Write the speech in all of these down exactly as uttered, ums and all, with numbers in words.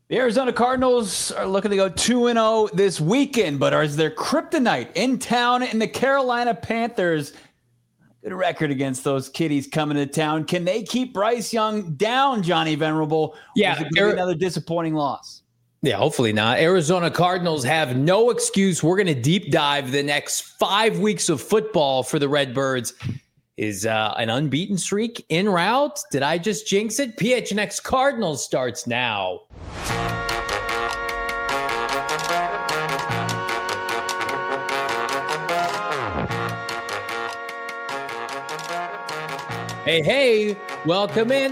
The Arizona Cardinals are looking to go two and oh this weekend, but is there kryptonite in town in the Carolina Panthers? Good record against those kiddies coming to town. Can they keep Bryce Young down, Johnny Venerable? Yeah. Or is it going to be another disappointing loss? Yeah, hopefully not. Arizona Cardinals have no excuse. We're going to deep dive the next five weeks of football for the Redbirds. Is uh, an unbeaten streak en route? Did I just jinx it? P H N X Cardinals starts now. Hey, hey, welcome in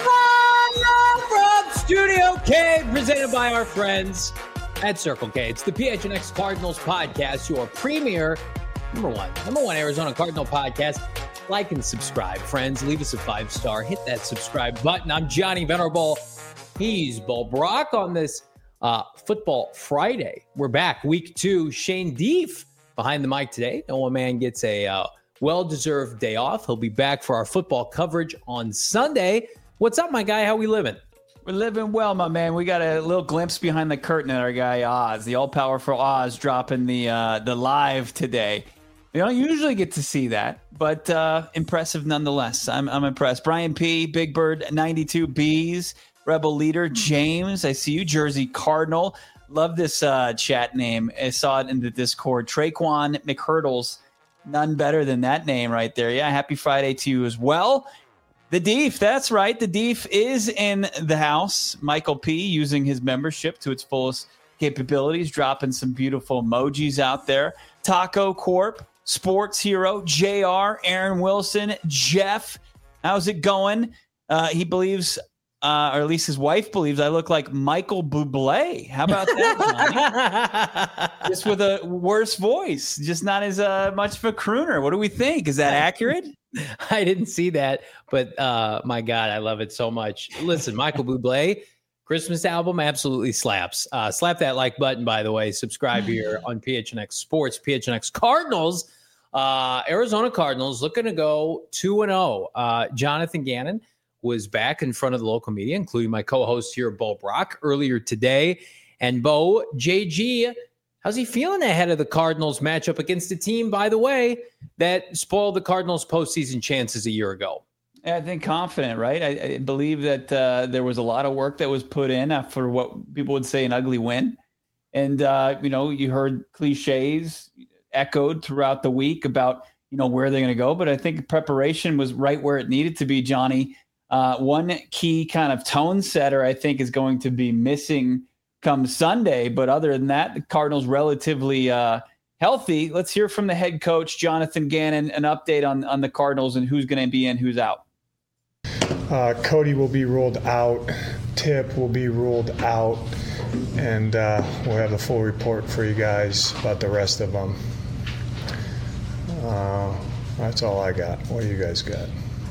from Studio K, presented by our friends at Circle K. It's the P H N X Cardinals podcast, your premier, number one, number one Arizona Cardinal podcast. Like and subscribe, friends. Leave us a five-star. Hit that subscribe button. I'm Johnny Venerable. He's Bo Brock on this uh, Football Friday. We're back, week two. Shane Deef behind the mic today. No one man gets a uh, well-deserved day off. He'll be back for our football coverage on Sunday. What's up, my guy? How we living? We're living well, my man. We got a little glimpse behind the curtain at our guy Oz, the all-powerful Oz, dropping the uh, the live today. We don't usually get to see that, but uh, impressive nonetheless. I'm I'm impressed. Brian P, Big Bird ninety-two B's, Rebel Leader James. I see you, Jersey Cardinal. Love this uh, chat name. I saw it in the Discord. Traquan McHurdles. None better than that name right there. Yeah, happy Friday to you as well. The Deef, that's right. The Deef is in the house. Michael P using his membership to its fullest capabilities, dropping some beautiful emojis out there. Taco Corp, Sports Hero, J R, Aaron Wilson, Jeff. How's it going? Uh, he believes, uh, or at least his wife believes, I look like Michael Bublé. How about that, Johnny? Just with a worse voice, just not as uh, much of a crooner. What do we think? Is that accurate? I didn't see that, but uh, my God, I love it so much. Listen, Michael Bublé, Christmas album absolutely slaps. Uh, slap that like button, by the way. Subscribe here on P H N X Sports. P H N X Cardinals, uh, Arizona Cardinals looking to go two and oh. Uh, Jonathan Gannon was back in front of the local media, including my co-host here, Bo Brock, earlier today. And Bo, J G, how's he feeling ahead of the Cardinals matchup against a team, by the way, that spoiled the Cardinals' postseason chances a year ago? I think confident, right? I, I believe that uh, there was a lot of work that was put in for what people would say an ugly win. And, uh, you know, you heard cliches echoed throughout the week about, you know, where they're going to go. But I think preparation was right where it needed to be, Johnny. Uh, one key kind of tone setter, I think, is going to be missing come Sunday. But other than that, the Cardinals relatively uh, healthy. Let's hear from the head coach, Jonathan Gannon, an update on, on the Cardinals and who's going to be in, who's out. Uh, Cody will be ruled out. Tip will be ruled out. And uh, we'll have a full report for you guys about the rest of them. Uh, that's all I got. What do you guys got?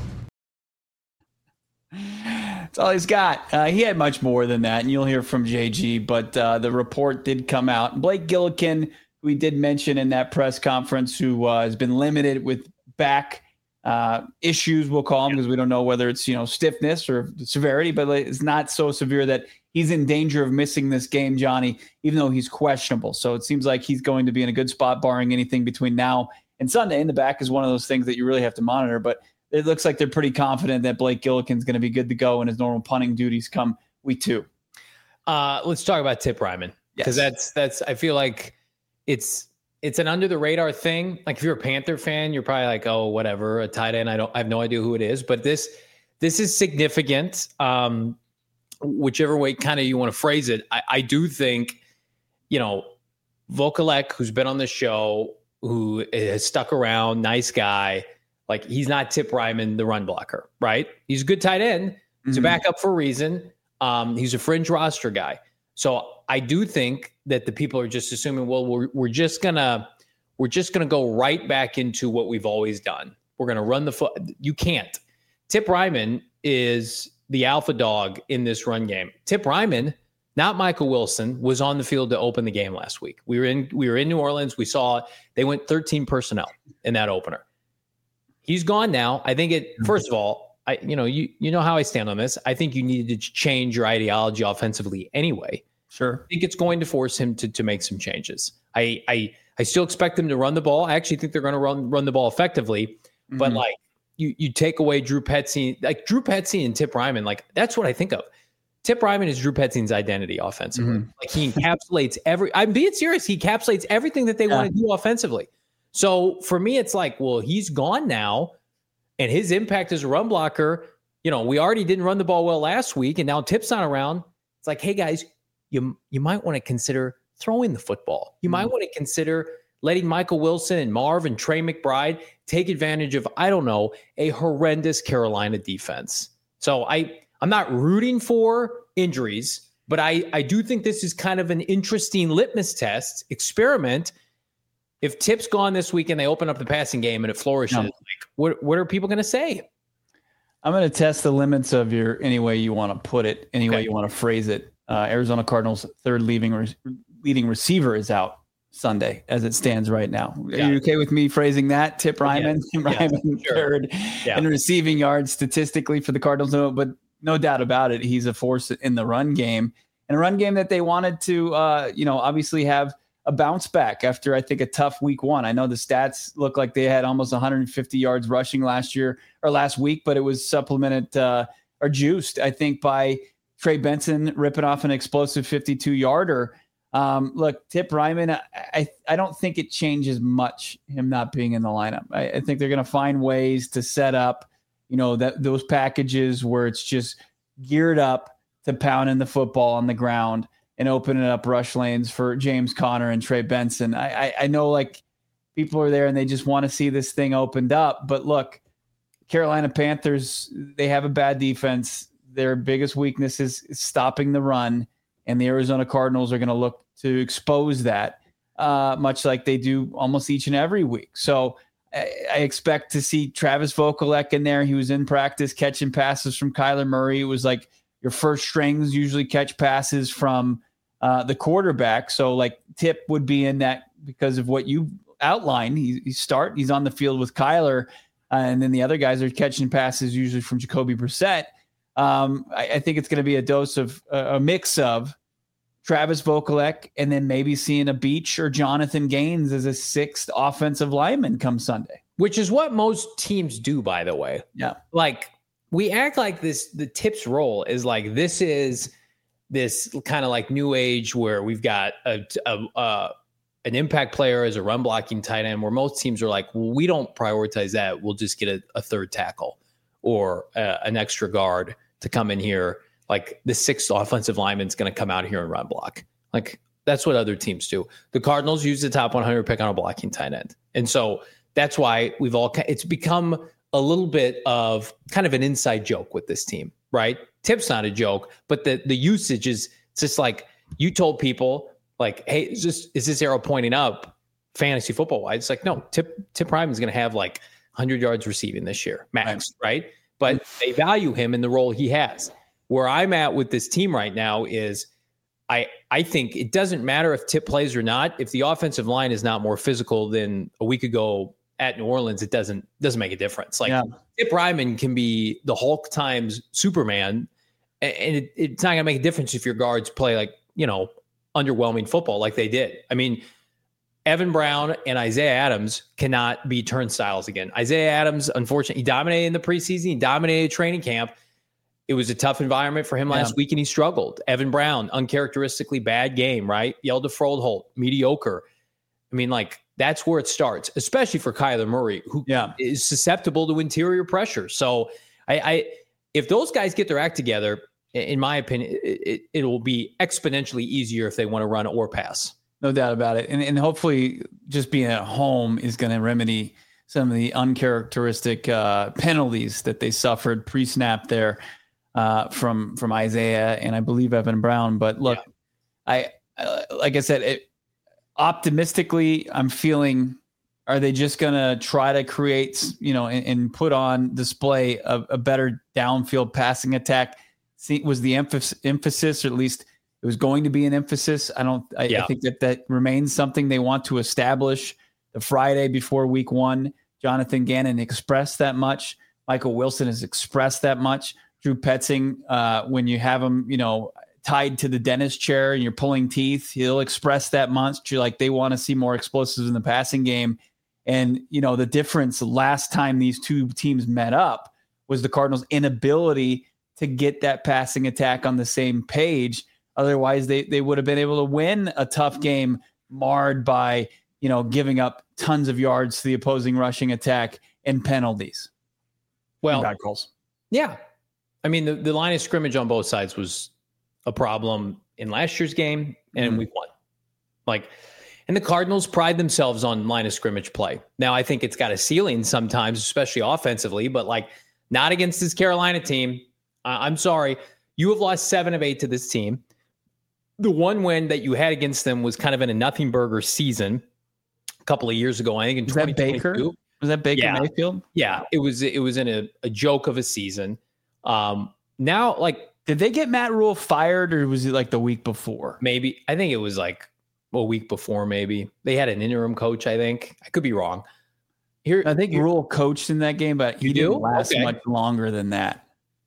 That's all he's got. Uh, he had much more than that, and you'll hear from J G. But uh, the report did come out. Blake Gillikin, who we did mention in that press conference, who uh, has been limited with back uh, issues, we'll call them, because we don't know whether it's, you know, stiffness or severity, but it's not so severe that he's in danger of missing this game, Johnny, even though he's questionable. So it seems like he's going to be in a good spot, barring anything between now and Sunday. And the back is one of those things that you really have to monitor. But it looks like they're pretty confident that Blake Gillikin's going to be good to go in his normal punting duties come week two. Uh, let's talk about Tip Reiman, because Yes. that's that's. I feel like it's it's an under the radar thing. Like if you're a Panther fan, you're probably like, oh, whatever, a tight end. I don't. I have no idea who it is, but this this is significant. Um, whichever way kind of you want to phrase it, I, I do think, you know, Vokalek, who's been on the show, who has stuck around, nice guy. Like, he's not Tip Reiman, the run blocker, right? He's a good tight end. He's mm-hmm. a backup for a reason. Um, he's a fringe roster guy. So I do think that the people are just assuming, well, we're we're just gonna we're just gonna go right back into what we've always done. We're gonna run the foot. You can't. Tip Reiman is the alpha dog in this run game. Tip Reiman, not Michael Wilson, was on the field to open the game last week. We were in we were in New Orleans. We saw they went thirteen personnel in that opener. He's gone now. I think it, first of all, I, you know, you you know how I stand on this. I think you needed to change your ideology offensively anyway. Sure. I think it's going to force him to to make some changes. I I I still expect them to run the ball. I actually think they're going to run run the ball effectively. Mm-hmm. But like you you take away Drew Petzing, like Drew Petzing and Tip Reiman, like that's what I think of. Tip Reiman is Drew Petzing's identity offensively. Mm-hmm. Like he encapsulates every. I'm being serious. He encapsulates everything that they yeah. want to do offensively. So for me, it's like, well, he's gone now, and his impact as a run blocker. You know, we already didn't run the ball well last week, and now Tip's not around. It's like, hey guys, you you might want to consider throwing the football. You mm-hmm. might want to consider letting Michael Wilson and Marv and Trey McBride take advantage of, I don't know, a horrendous Carolina defense. So I I'm not rooting for injuries, but I I do think this is kind of an interesting litmus test experiment. If Tip's gone this week and they open up the passing game and it flourishes, no. like what what are people going to say? I'm going to test the limits of your any way you want to put it, any okay. way you want to phrase it. Uh, Arizona Cardinals' third leading re- leading receiver is out Sunday as it stands right now. Are yeah. you okay with me phrasing that? Tip Reiman, yeah. Reiman yeah. Sure. third yeah. in receiving yards statistically for the Cardinals, no, but no doubt about it, he's a force in the run game, and a run game that they wanted to, uh, you know, obviously have a bounce back after, I think, a tough week one. I know the stats look like they had almost one hundred fifty yards rushing last year or last week, but it was supplemented uh, or juiced, I think, by Trey Benson ripping off an explosive fifty-two yarder. Um, look, Tip Reiman, I, I don't think it changes much, him not being in the lineup. I, I think they're going to find ways to set up, you know, that those packages where it's just geared up to pounding the football on the ground and opening up rush lanes for James Conner and Trey Benson. I, I, I know like people are there and they just want to see this thing opened up. But look, Carolina Panthers, they have a bad defense. Their biggest weakness is stopping the run, and the Arizona Cardinals are going to look to expose that, uh, much like they do almost each and every week. So I, I expect to see Travis Vokolek in there. He was in practice catching passes from Kyler Murray. It was like your first strings usually catch passes from uh, the quarterback. So like Tip would be in that because of what you outlined. He, he start, he's on the field with Kyler, uh, and then the other guys are catching passes usually from Jacoby Brissett. Um, I, I think it's going to be a dose of uh, a mix of Travis Vokolek and then maybe seeing a Beach or Jonathan Gaines as a sixth offensive lineman come Sunday. Which is what most teams do, by the way. Yeah. Like we act like this, the Tip's role is like, this is this kind of like new age where we've got a, a, a an impact player as a run blocking tight end, where most teams are like, well, we don't prioritize that. We'll just get a, a third tackle or uh, an extra guard to come in here. Like the sixth offensive lineman is going to come out here and run block. Like that's what other teams do. The Cardinals use the top one hundred pick on a blocking tight end. And so that's why we've all, it's become a little bit of kind of an inside joke with this team, right? Tip's not a joke, but the, the usage is it's just like you told people like, hey, is this, is this arrow pointing up fantasy football wise? It's like, no, Tip, Tip Reiman is going to have like one hundred yards receiving this year, max, right? right? But they value him in the role he has. Where I'm at with this team right now is I I think it doesn't matter if Tip plays or not. If the offensive line is not more physical than a week ago at New Orleans, it doesn't doesn't make a difference. Like yeah. Tip Reiman can be the Hulk times Superman, and it, it's not going to make a difference if your guards play like, you know, underwhelming football like they did. I mean, Evan Brown and Isaiah Adams cannot be turnstiles again. Isaiah Adams, unfortunately, he dominated in the preseason. He dominated training camp. It was a tough environment for him last yeah. week, and he struggled. Evan Brown, uncharacteristically bad game, right? Yelled to Froldholt, mediocre. I mean, like, that's where it starts, especially for Kyler Murray, who yeah. is susceptible to interior pressure. So I, I, if those guys get their act together, in my opinion, it, it, it will be exponentially easier if they want to run or pass. No doubt about it. And, and hopefully just being at home is going to remedy some of the uncharacteristic uh, penalties that they suffered pre-snap there. Uh, from from Isaiah and I believe Evan Brown. But look, yeah. I uh, like I said, it, optimistically, I'm feeling, are they just going to try to create, you know, and, and put on display a, a better downfield passing attack? See, was the emphasis, emphasis, or at least it was going to be an emphasis. I don't, I, yeah. I think that that remains something they want to establish the Friday before week one. Jonathan Gannon expressed that much. Michael Wilson has expressed that much. Drew Petzing, uh, when you have him, you know, tied to the dentist chair and you're pulling teeth, he'll express that much. Like they want to see more explosives in the passing game. And, you know, the difference last time these two teams met up was the Cardinals' inability to get that passing attack on the same page. Otherwise, they, they would have been able to win a tough game marred by, you know, giving up tons of yards to the opposing rushing attack and penalties. Well, bad calls. Yeah. I mean, the, the line of scrimmage on both sides was a problem in last year's game, and mm-hmm. we won. Like, and the Cardinals pride themselves on line of scrimmage play. Now, I think it's got a ceiling sometimes, especially offensively, but like not against this Carolina team. Uh, I'm sorry. You have lost seven of eight to this team. The one win that you had against them was kind of in a nothing burger season a couple of years ago. I think in was that Baker? Was that Baker yeah. Mayfield? Yeah, it was. It was in a, a joke of a season. Um, now, like, did they get Matt Rule fired, or was it like the week before? Maybe. I think it was like a week before. Maybe they had an interim coach. I think I could be wrong. Here, I think here, Rule coached in that game, but he you didn't do? last okay. much longer than that.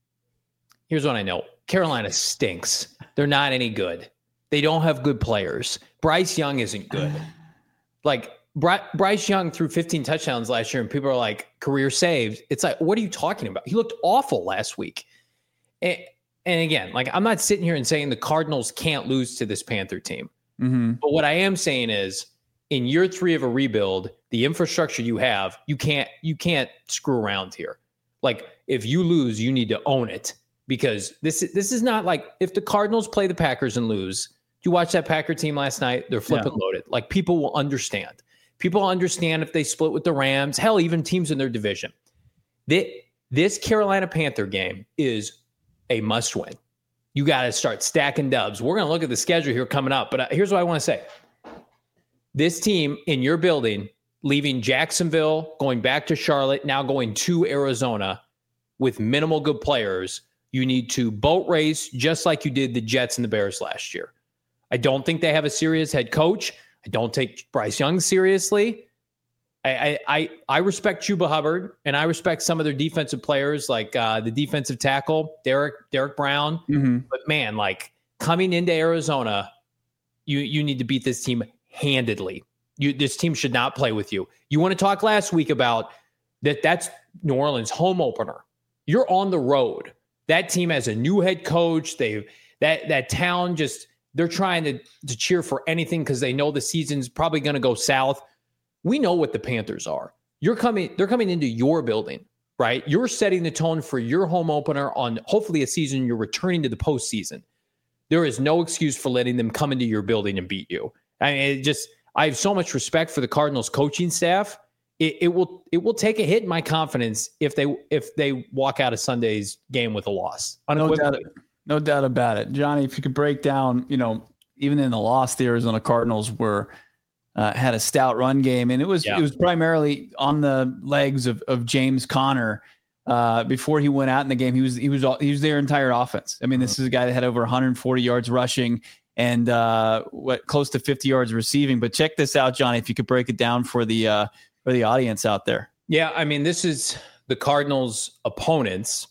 Here's what I know: Carolina stinks. They're not any good. They don't have good players. Bryce Young isn't good. Like Bry- Bryce Young threw fifteen touchdowns last year, and people are like, career saved. It's like, what are you talking about? He looked awful last week. And, and again, like, I'm not sitting here and saying the Cardinals can't lose to this Panther team. Mm-hmm. But what I am saying is, in year three of a rebuild, the infrastructure you have, you can't you can't screw around here. Like, if you lose, you need to own it, because this this is not like if the Cardinals play the Packers and lose. You watch that Packer team last night, they're flipping yeah. loaded. Like, people will understand. People understand if they split with the Rams, hell, even teams in their division. This, this Carolina Panther game is a must win. You got to start stacking dubs. We're going to look at the schedule here coming up, but here's what I want to say. This team in your building, leaving Jacksonville, going back to Charlotte, now going to Arizona with minimal good players, you need to boat race just like you did the Jets and the Bears last year. I don't think they have a serious head coach. I don't take Bryce Young seriously. I I I respect Chuba Hubbard, and I respect some of their defensive players, like uh, the defensive tackle, Derek Derek Brown. Mm-hmm. But man, like coming into Arizona, you you need to beat this team handedly. You this team should not play with you. You want to talk last week about that? That's New Orleans' home opener. You're on the road. That team has a new head coach. They that that town just. They're trying to, to cheer for anything because they know the season's probably going to go south. We know what the Panthers are. You're coming, they're coming into your building, right? You're setting the tone for your home opener on hopefully a season you're returning to the postseason. There is no excuse for letting them come into your building and beat you. I mean, it just I have so much respect for the Cardinals coaching staff. It, it will it will take a hit in my confidence if they if they walk out of Sunday's game with a loss. No doubt. No doubt about it. Johnny, if you could break down, you know, even in the loss, the Arizona Cardinals were uh, had a stout run game, and it was yeah. it was primarily on the legs of, of James Conner. Uh, before he went out in the game, he was he was he was their entire offense. I mean, this is a guy that had over one hundred forty yards rushing and uh, what close to fifty yards receiving. But check this out, Johnny, if you could break it down for the uh, for the audience out there. Yeah, I mean, this is the Cardinals' opponents.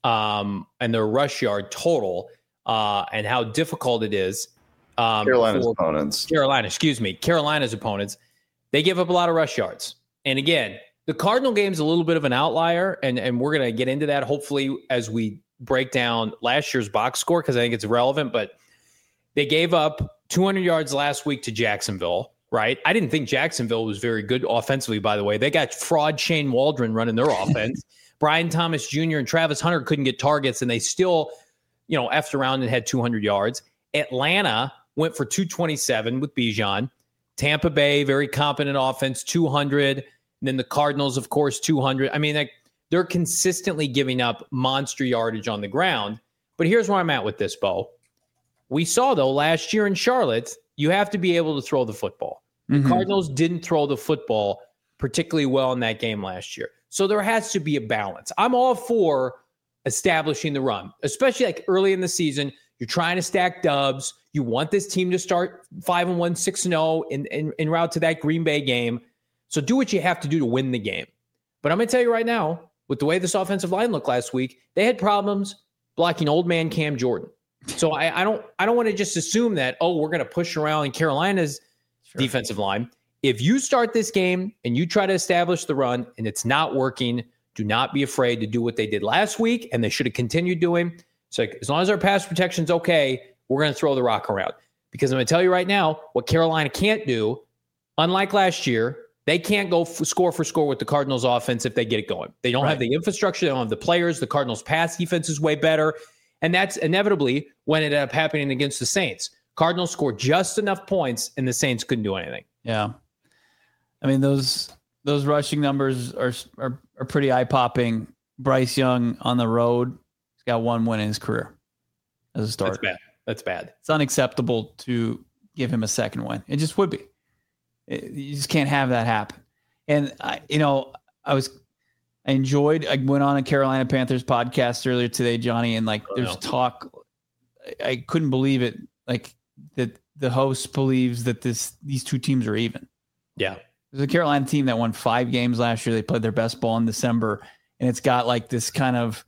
Um, and their rush yard total, uh, and how difficult it is. Um, Carolina's opponents. Carolina, excuse me. Carolina's opponents. They give up a lot of rush yards. And again, the Cardinal game's a little bit of an outlier, and, and we're going to get into that hopefully as we break down last year's box score, because I think it's relevant. But they gave up two hundred yards last week to Jacksonville, right? I didn't think Jacksonville was very good offensively, by the way. They got fraud Shane Waldron running their offense. Brian Thomas Junior and Travis Hunter couldn't get targets, and they still, you know, effed around and had two hundred yards. Atlanta went for two twenty-seven with Bijan. Tampa Bay, very competent offense, two hundred. And then the Cardinals, of course, two hundred. I mean, like, they're consistently giving up monster yardage on the ground. But here's where I'm at with this, Bo. We saw, though, last year in Charlotte, you have to be able to throw the football. The mm-hmm. Cardinals didn't throw the football particularly well in that game last year. So there has to be a balance. I'm all for establishing the run, especially like early in the season. You're trying to stack dubs. You want this team to start five and one, six and zero in, in, in route to that Green Bay game. So do what you have to do to win the game. But I'm going to tell you right now, with the way this offensive line looked last week, they had problems blocking old man Cam Jordan. So I, I don't I don't want to just assume that, oh, we're going to push around Carolina's sure. defensive line. If you start this game and you try to establish the run and it's not working, do not be afraid to do what they did last week, and they should have continued doing. So like, as long as our pass protection's okay, we're going to throw the rock around. Because I'm going to tell you right now, what Carolina can't do, unlike last year, they can't go f- score for score with the Cardinals offense if they get it going. They don't right. have the infrastructure. They don't have the players. The Cardinals pass defense is way better. And that's inevitably when it ended up happening against the Saints. Cardinals scored just enough points and the Saints couldn't do anything. Yeah. I mean, those those rushing numbers are are, are pretty eye-popping. Bryce Young on the road, he's got one win in his career as a starter. That's bad. That's bad. It's unacceptable to give him a second win. It just would be. It, you just can't have that happen. And I, you know, I was, I enjoyed. I went on a Carolina Panthers podcast earlier today, Johnny, and like, oh, there's no. talk. I, I couldn't believe it. Like that, the host believes that this these two teams are even. Yeah, there's a Carolina team that won five games last year. They played their best ball in December, and it's got like this kind of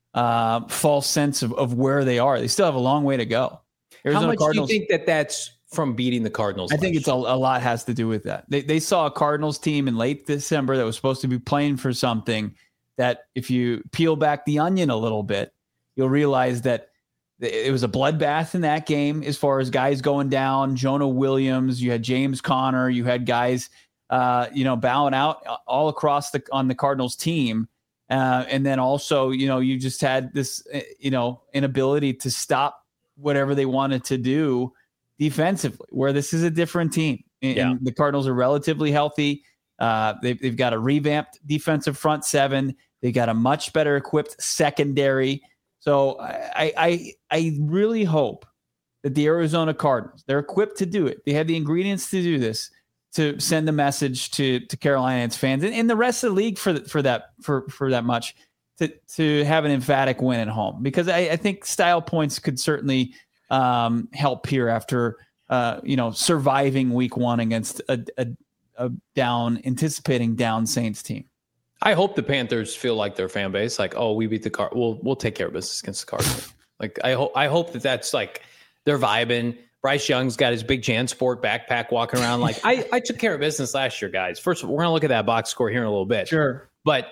uh, false sense of, of where they are. They still have a long way to go. Arizona How much Cardinals, do you think that that's from beating the Cardinals? I think it's a, a lot has to do with that. They they saw a Cardinals team in late December that was supposed to be playing for something that if you peel back the onion a little bit, you'll realize that it was a bloodbath in that game as far as guys going down. Jonah Williams, you had James Conner, you had guys, uh, you know, bowing out all across the on the Cardinals team. Uh, and then also, you know, you just had this, you know, inability to stop whatever they wanted to do defensively, where this is a different team. And, yeah. and the Cardinals are relatively healthy. Uh, they've, they've got a revamped defensive front seven. They got a much better equipped secondary. So I, I, I really hope that the Arizona Cardinals, they're equipped to do it. They have the ingredients to do this, to send a message to, to Carolina and its fans and, and the rest of the league for, for that, for, for that much to, to have an emphatic win at home, because I, I think style points could certainly um, help here after, uh, you know, surviving week one against a, a, a down, anticipating down Saints team. I hope the Panthers feel like their fan base, like, oh, we beat the Card. We'll we'll take care of business against the Cardinals. like I hope I hope that that's like they're vibing. Bryce Young's got his big JanSport backpack walking around. Like I I took care of business last year, guys. First, we're gonna look at that box score here in a little bit. Sure, but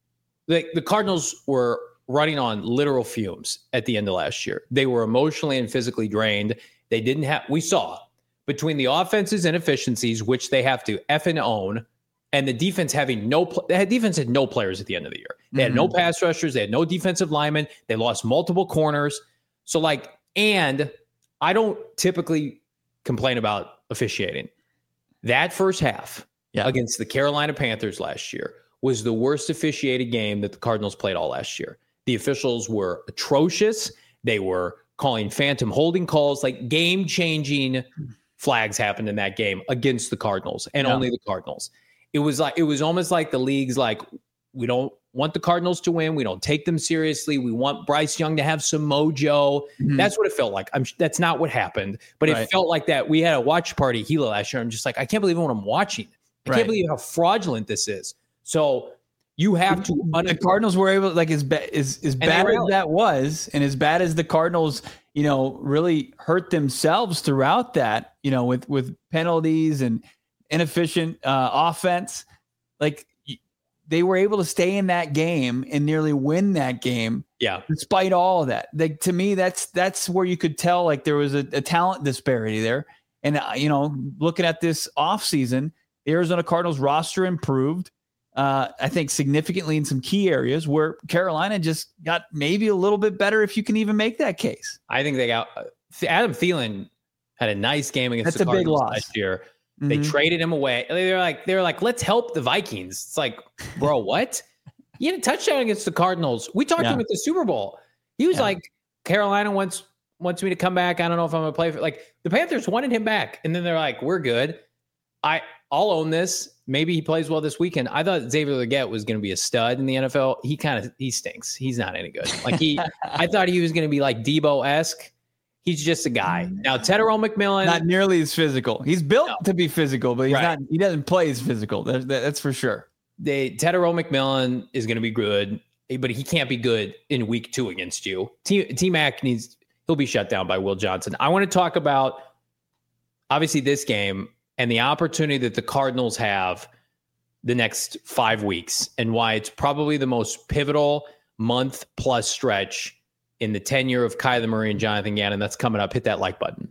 the the Cardinals were running on literal fumes at the end of last year. They were emotionally and physically drained. They didn't have. We saw between the offense's inefficiencies, which they have to effing own, and the defense having no, they had defense had no players at the end of the year. They had mm-hmm. no pass rushers. They had no defensive linemen. They lost multiple corners. So like, and I don't typically complain about officiating. That first half yeah. against the Carolina Panthers last year was the worst officiated game that the Cardinals played all last year. The officials were atrocious. They were calling phantom holding calls, like game-changing flags happened in that game against the Cardinals and yeah. only the Cardinals. It was like, it was almost like the league's like, we don't want the Cardinals to win. We don't take them seriously. We want Bryce Young to have some mojo. Mm-hmm. That's what it felt like. I'm that's not what happened, but right. it felt like that. We had a watch party Gila last year. I'm just like, I can't believe what I'm watching. I right. can't believe how fraudulent this is. So you have to. Un- the Cardinals were able, like as bad as as bad as that was, and as bad as the Cardinals, you know, really hurt themselves throughout that, you know, with with penalties and inefficient uh, offense, like they were able to stay in that game and nearly win that game. Yeah. Despite all of that, like to me, that's, that's where you could tell, like there was a, a talent disparity there. And, uh, you know, looking at this offseason, the Arizona Cardinals roster improved, uh, I think significantly in some key areas where Carolina just got maybe a little bit better, if you can even make that case. I think they got uh, Adam Thielen had a nice game against that's the a Cardinals big loss last year. They mm-hmm. traded him away. They're like, they're like, let's help the Vikings. It's like, bro, what? He had a touchdown against the Cardinals. We talked yeah. to him at the Super Bowl. He was yeah. like, Carolina wants wants me to come back. I don't know if I'm gonna play for. Like the Panthers wanted him back, and then they're like, we're good. I I'll own this. Maybe he plays well this weekend. I thought Xavier Legette was going to be a stud in the N F L. He kind of he stinks. He's not any good. Like he, I thought he was going to be like Debo-esque. He's just a guy. Now, Tetairoa McMillan. Not nearly as physical. He's built no. to be physical, but he's right. not. He doesn't play as physical. That, that, that's for sure. they Tedero McMillan is going to be good, but he can't be good in week two against you. T, T-Mac needs, he'll be shut down by Will Johnson. I want to talk about, obviously, this game and the opportunity that the Cardinals have the next five weeks and why it's probably the most pivotal month plus stretch in the tenure of Kyler Murray and Jonathan Gannon. That's coming up. Hit that like button.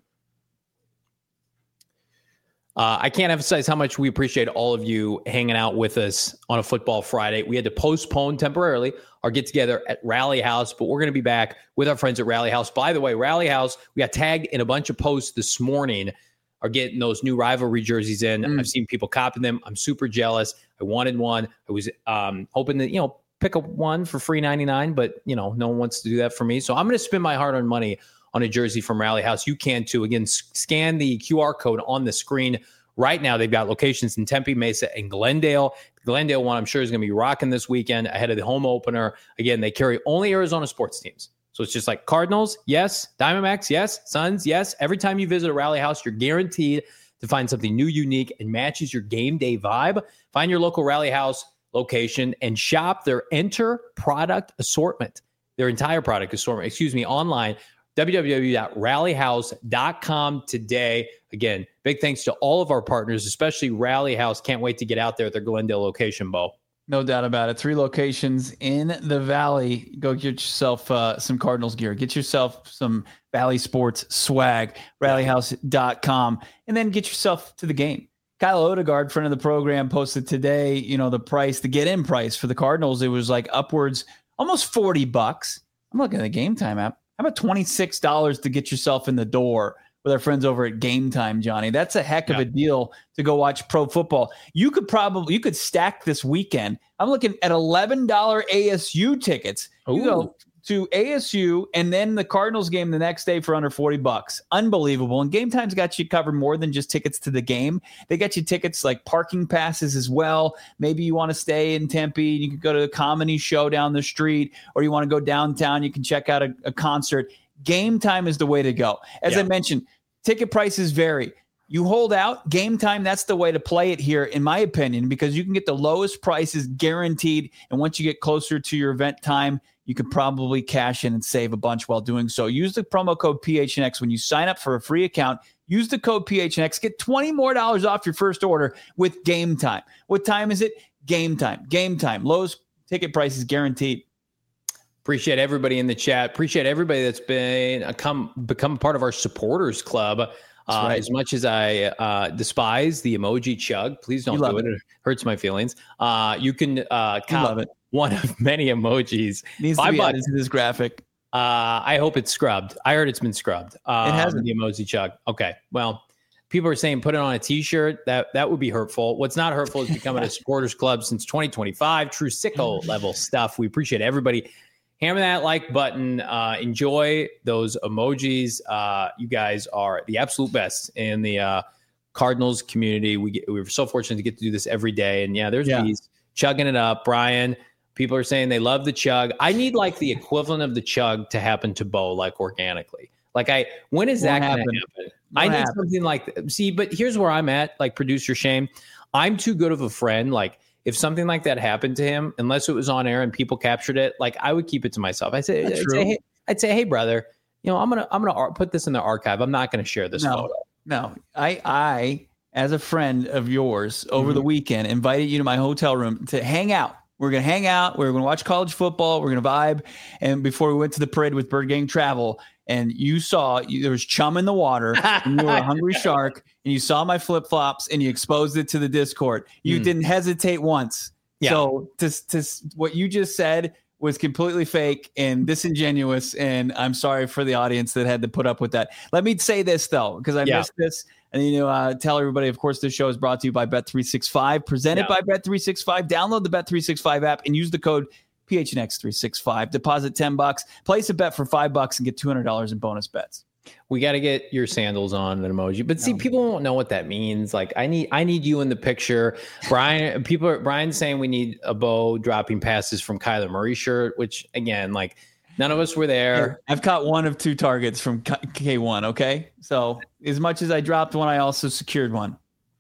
Uh, I can't emphasize how much we appreciate all of you hanging out with us on a Football Friday. We had to postpone temporarily our get-together at Rally House, but we're going to be back with our friends at Rally House. By the way, Rally House, we got tagged in a bunch of posts this morning, are getting those new rivalry jerseys in. Mm. I've seen people copying them. I'm super jealous. I wanted one. I was um, hoping that, you know, pick up one for free ninety-nine, but, you know, no one wants to do that for me. So I'm going to spend my hard-earned money on a jersey from Rally House. You can too. Again, scan the Q R code on the screen right now. They've got locations in Tempe, Mesa, and Glendale. The Glendale one, I'm sure, is going to be rocking this weekend ahead of the home opener. Again, they carry only Arizona sports teams. So it's just like Cardinals, yes. Diamondbacks, yes. Suns, yes. Every time you visit a Rally House, you're guaranteed to find something new, unique, and matches your game day vibe. Find your local Rally House location and shop their enter product assortment, their entire product assortment, excuse me, online, w w w dot rally house dot com today. Again, big thanks to all of our partners, especially Rally House. Can't wait to get out there at their Glendale location, Bo. No doubt about it. Three locations in the Valley. Go get yourself uh, some Cardinals gear. Get yourself some Valley Sports swag, rally house dot com, and then get yourself to the game. Kyle Odegaard, friend of the program, posted today, you know, the price, the get-in price for the Cardinals. It was like upwards, almost forty bucks. I'm looking at the Game Time app. How about twenty-six dollars to get yourself in the door with our friends over at Game Time, Johnny? That's a heck of yeah. a deal to go watch pro football. You could probably, you could stack this weekend. I'm looking at eleven dollars A S U tickets. Ooh. You go to A S U and then the Cardinals game the next day for under forty bucks. Unbelievable. And Game Time's got you covered more than just tickets to the game. They got you tickets like parking passes as well. Maybe you want to stay in Tempe. You can go to a comedy show down the street, or you want to go downtown. You can check out a, a concert. Game Time is the way to go. As yeah. I mentioned, ticket prices vary. You hold out, Game Time, that's the way to play it here, in my opinion, because you can get the lowest prices guaranteed. And once you get closer to your event time, you could probably cash in and save a bunch while doing so. Use the promo code P H N X when you sign up for a free account. Use the code P H N X. Get twenty more dollars off your first order with Game Time. What time is it? Game Time. Game Time. Lowest ticket prices guaranteed. Appreciate everybody in the chat. Appreciate everybody that's been a come become a part of our supporters club. Uh, right. As much as I uh, despise the emoji chug, please don't do it. it. It hurts my feelings. Uh, you can uh, cop it. One of many emojis. Needs to be added to this graphic. Uh, I hope it's scrubbed. I heard it's been scrubbed. Um, it hasn't. The emoji chug. Okay. Well, people are saying put it on a T-shirt. That that would be hurtful. What's not hurtful is becoming a supporters club since twenty twenty-five. True sicko level stuff. We appreciate everybody. Hammer that like button. Uh, enjoy those emojis. Uh, you guys are the absolute best in the uh, Cardinals community. We get, we're so fortunate to get to do this every day. And yeah, there's yeah. these chugging it up. Brian, people are saying they love the chug. I need like the equivalent of the chug to happen to Bo, like organically. Like I, when is that going to happen? happen? I need happen. something like that. See, but here's where I'm at, like producer Shane. I'm too good of a friend. Like, if something like that happened to him, unless it was on air and people captured it, like I would keep it to myself. I say, I'd say, hey, I'd say, hey, brother, you know, I'm gonna, I'm gonna put this in the archive. I'm not gonna share this no, photo. No, I, I, as a friend of yours, over mm-hmm. the weekend, invited you to my hotel room to hang out. We're gonna hang out. We're gonna watch college football. We're gonna vibe. And before we went to the parade with Bird Gang Travel, and you saw you, there was chum in the water, and you were a hungry shark, and you saw my flip flops, and you exposed it to the Discord. You mm. didn't hesitate once. Yeah. So to, to what you just said was completely fake and disingenuous, and I'm sorry for the audience that had to put up with that. Let me say this though, because I yeah. missed this, and you know, uh, tell everybody. Of course, this show is brought to you by Bet three sixty-five, presented yeah. by Bet three sixty-five. Download the Bet three sixty-five app and use the code P H N X three sixty-five. Deposit ten bucks, place a bet for five bucks, and get two hundred dollars in bonus bets. We got to get your sandals on an emoji, but see, no. people won't know what that means. Like I need, I need you in the picture. Brian, people are Brian's saying we need a Bo dropping passes from Kyler Murray shirt, which again, like none of us were there. I've caught one of two targets from K one. Okay. So as much as I dropped one, I also secured one.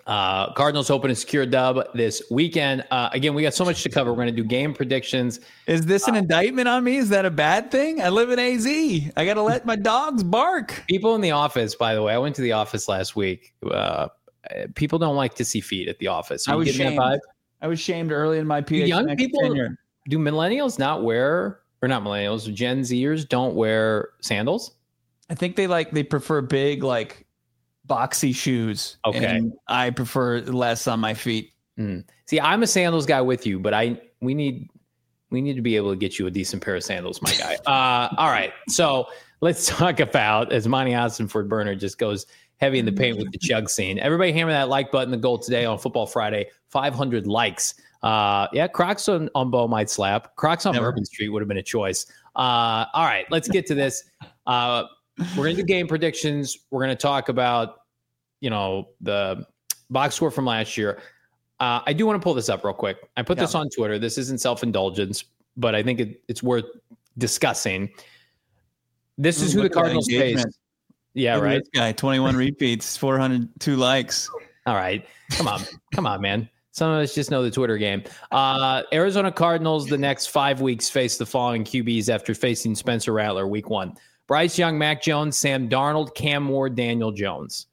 Uh, Cardinals hoping to secure a dub this weekend. Uh, again, we got so much to cover. We're going to do game predictions. Is this an uh, indictment on me? Is that a bad thing? I live in A Z. I got to let my dogs bark. People in the office, by the way, I went to the office last week. Uh, people don't like to see feet at the office. Are I was shamed. shamed. I was shamed early in my P H. Young people, tenure. Do millennials not wear, or not millennials, Gen Zers don't wear sandals? I think they like, they prefer big, like, boxy shoes. Okay. And I prefer less on my feet. Mm. See, I'm a sandals guy with you, but I we need we need to be able to get you a decent pair of sandals, my guy. uh, all right. So let's talk about, as Monty Ossenford Burner just goes heavy in the paint with the chug scene. Everybody hammer that like button. The goal today on Football Friday, five hundred likes. Uh, yeah, Crocs on, on Bo might slap. Crocs on Never. Bourbon Street would have been a choice. Uh, all right, let's get to this. Uh, We're going to do game predictions. We're going to talk about, you know, the box score from last year. Uh, I do want to pull this up real quick. I put yeah. this on Twitter. This isn't self-indulgence, but I think it, it's worth discussing. This is who the Cardinals face. Yeah, right. This guy, twenty-one repeats, four hundred two likes. All right. Come on. Come on, man. Some of us just know the Twitter game. Uh, Arizona Cardinals, the next five weeks, face the following Q Bs after facing Spencer Rattler week one. Bryce Young, Mac Jones, Sam Darnold, Cam Ward, Daniel Jones.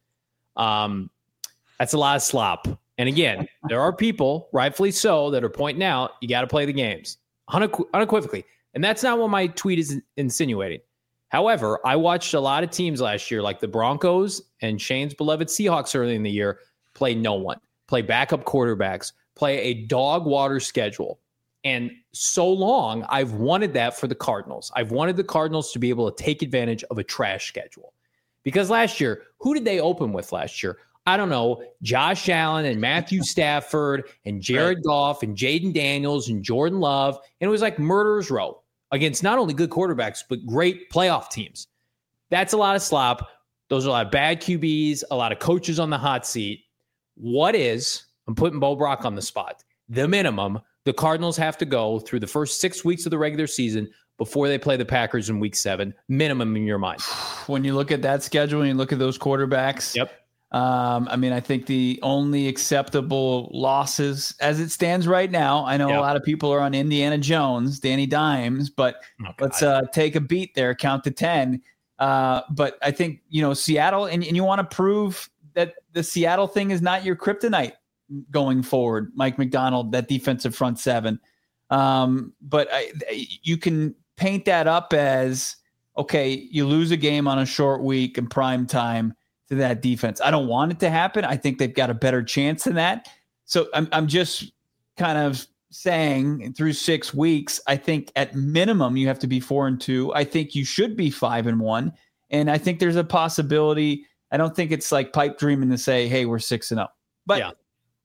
Um, that's a lot of slop. And again, there are people, rightfully so, that are pointing out you got to play the games unequ- unequivocally. And that's not what my tweet is insinuating. However, I watched a lot of teams last year, like the Broncos and Shane's beloved Seahawks early in the year, play no one, play backup quarterbacks, play a dog water schedule. And so long, I've wanted that for the Cardinals. I've wanted the Cardinals to be able to take advantage of a trash schedule. Because last year, who did they open with last year? I don't know, Josh Allen and Matthew Stafford and Jared right. Goff and Jaden Daniels and Jordan Love. And it was like murderer's row against not only good quarterbacks, but great playoff teams. That's a lot of slop. Those are a lot of bad Q Bs, a lot of coaches on the hot seat. What is, I'm putting Bo Brock on the spot, the minimum the Cardinals have to go through the first six weeks of the regular season before they play the Packers in week seven, minimum in your mind? When you look at that schedule and you look at those quarterbacks, yep. Um, I mean, I think the only acceptable losses as it stands right now, I know yep. a lot of people are on Indiana Jones, Danny Dimes, but oh, let's uh, take a beat there, count to ten. Uh, but I think, you know, Seattle, and, and you want to prove that the Seattle thing is not your kryptonite going forward. Mike McDonald, that defensive front seven. Um, but I, you can paint that up as, okay, you lose a game on a short week in prime time to that defense. I don't want it to happen. I think they've got a better chance than that. So I'm, I'm just kind of saying through six weeks, I think at minimum you have to be four and two. I think you should be five and one. And I think there's a possibility. I don't think it's like pipe dreaming to say, hey, we're six and up, but yeah.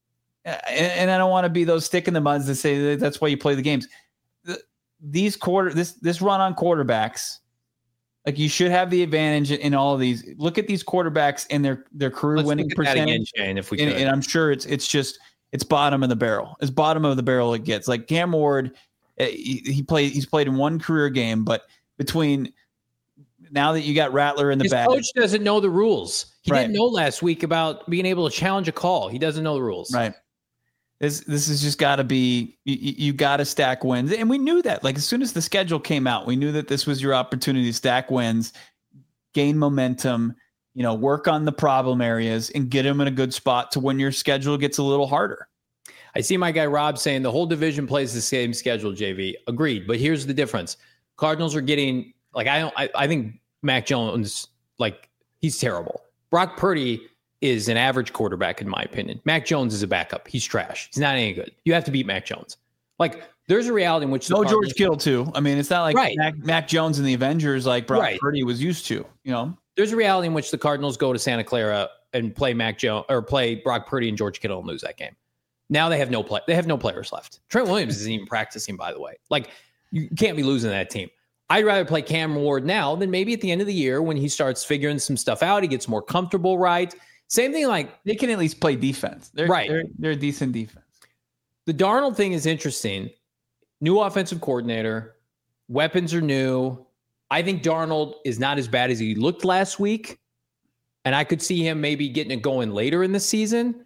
And, and I don't want to be those stick in the muds that say that that's why you play the games. The, these quarter, this this run on quarterbacks, like you should have the advantage in all of these. Look at these quarterbacks and their their career Let's winning percentage. Again, Shane, if we and, could. and I'm sure it's it's just it's bottom of the barrel. It's bottom of the barrel it gets. Like Cam Ward, he, he played he's played in one career game, but between now that you got Rattler in the His bag, coach doesn't know the rules. He right. didn't know last week about being able to challenge a call. He doesn't know the rules. Right. This this has just got to be you, you got to stack wins, and we knew that. Like as soon as the schedule came out, we knew that this was your opportunity to stack wins, gain momentum, you know, work on the problem areas, and get them in a good spot to when your schedule gets a little harder. I see my guy Rob saying the whole division plays the same schedule. J V agreed, but here's the difference: Cardinals are getting like I don't. I, I think Mac Jones, like he's terrible. Brock Purdy is an average quarterback, in my opinion. Mac Jones is a backup. He's trash. He's not any good. You have to beat Mac Jones. Like, there's a reality in which... No George Kittle, too. I mean, it's not like right. Mac, Mac Jones and the Avengers like Brock right. Purdy was used to, you know? There's a reality in which the Cardinals go to Santa Clara and play Mac Jones or play Brock Purdy and George Kittle and lose that game. Now they have no play. They have no players left. Trent Williams isn't even practicing, by the way. Like, you can't be losing that team. I'd rather play Cam Ward now than maybe at the end of the year when he starts figuring some stuff out. He gets more comfortable, right? Same thing, like they can at least play defense. They're, right. They're, they're a decent defense. The Darnold thing is interesting. New offensive coordinator. Weapons are new. I think Darnold is not as bad as he looked last week. And I could see him maybe getting it going later in the season.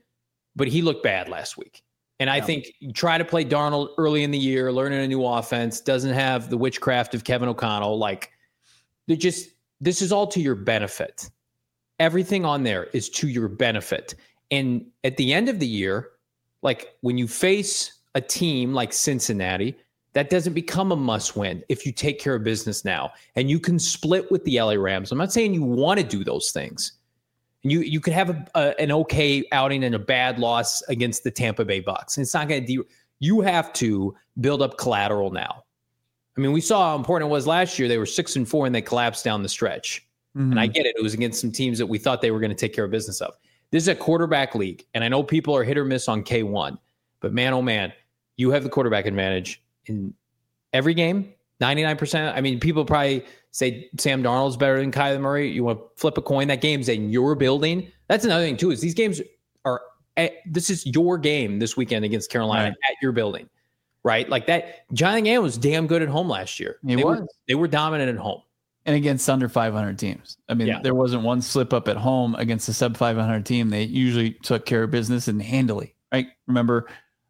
but he looked bad last week. And I yeah. think you try to play Darnold early in the year, learning a new offense, doesn't have the witchcraft of Kevin O'Connell. Like, they just, this is all to your benefit. Everything on there is to your benefit. And at the end of the year, like when you face a team like Cincinnati, that doesn't become a must win if you take care of business now. And you can split with the L A Rams. I'm not saying you want to do those things. You you could have a, a, an okay outing and a bad loss against the Tampa Bay Bucks. And it's not going to de- you have to build up collateral now. I mean, we saw how important it was last year. They were six and four and they collapsed down the stretch. Mm-hmm. And I get it. It was against some teams that we thought they were going to take care of business of. This is a quarterback league. And I know people are hit or miss on K one, but man, oh man, you have the quarterback advantage in every game. ninety-nine percent. I mean, people probably say Sam Darnold's better than Kyler Murray. You want to flip a coin. That game's in your building. That's another thing too, is these games are, at, this is your game this weekend against Carolina right. at your building, right? Like that. Jonathan Gannon was damn good at home last year. He they was. Were, they were dominant at home. And against under five hundred teams. I mean, yeah. there wasn't one slip up at home against a sub five hundred team. They usually took care of business and handily, right? Remember,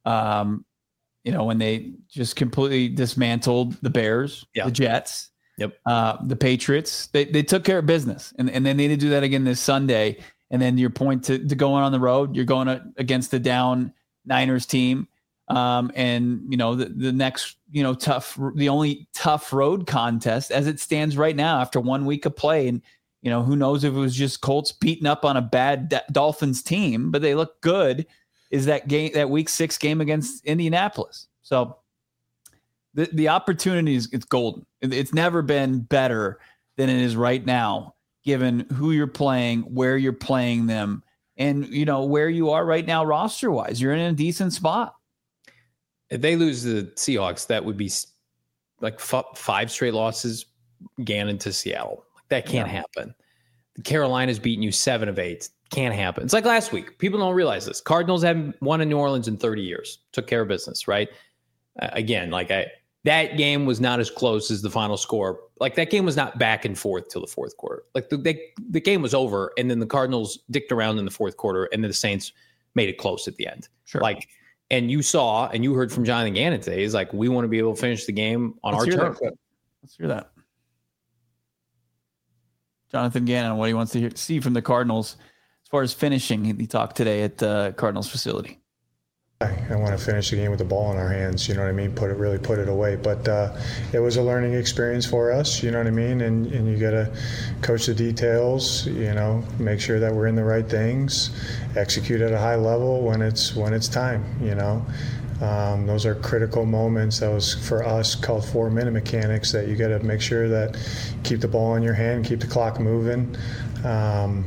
um, you know, when they just completely dismantled the Bears, yeah. the Jets, yep, uh, the Patriots, they they took care of business. And, and they need to do that again this Sunday. And then your point to, to going on the road, you're going to, against the down Niners team. Um, and, you know, the, the next, you know, tough, the only tough road contest as it stands right now after one week of play. And, you know, who knows if it was just Colts beating up on a bad D- Dolphins team, but they look good, is that game, that week six game against Indianapolis. So the, the opportunity is, it's golden. It's never been better than it is right now, given who you're playing, where you're playing them, and, you know, where you are right now roster wise. You're in a decent spot. If they lose the Seahawks, that would be like f- five straight losses, Gannon to Seattle. Like that can't yeah. happen. The Carolina's beating you seven of eight. Can't happen. It's like last week. People don't realize this. Cardinals haven't won in New Orleans in thirty years. Took care of business, right? Uh, again, like I, that game was not as close as the final score. Like that game was not back and forth till the fourth quarter. Like the they, the game was over, and then the Cardinals dicked around in the fourth quarter, and then the Saints made it close at the end. Sure. Like. And you saw, and you heard from Jonathan Gannon today, is like, we want to be able to finish the game on Let's our turf. Let's hear that. Jonathan Gannon, what he wants to hear, see from the Cardinals as far as finishing. He, he talked today at the Cardinals facility. I want to finish the game with the ball in our hands, you know what I mean? Put it, really put it away. But uh, it was a learning experience for us, you know what I mean? And and you got to coach the details, you know, make sure that we're in the right things, execute at a high level when it's when it's time, you know. Um, those are critical moments. That was for us called four-minute mechanics, that you got to make sure that keep the ball in your hand, keep the clock moving. Um,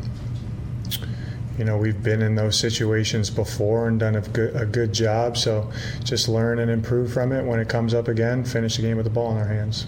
You know, we've been in those situations before and done a good, a good job. So just learn and improve from it. When it comes up again, finish the game with the ball in our hands.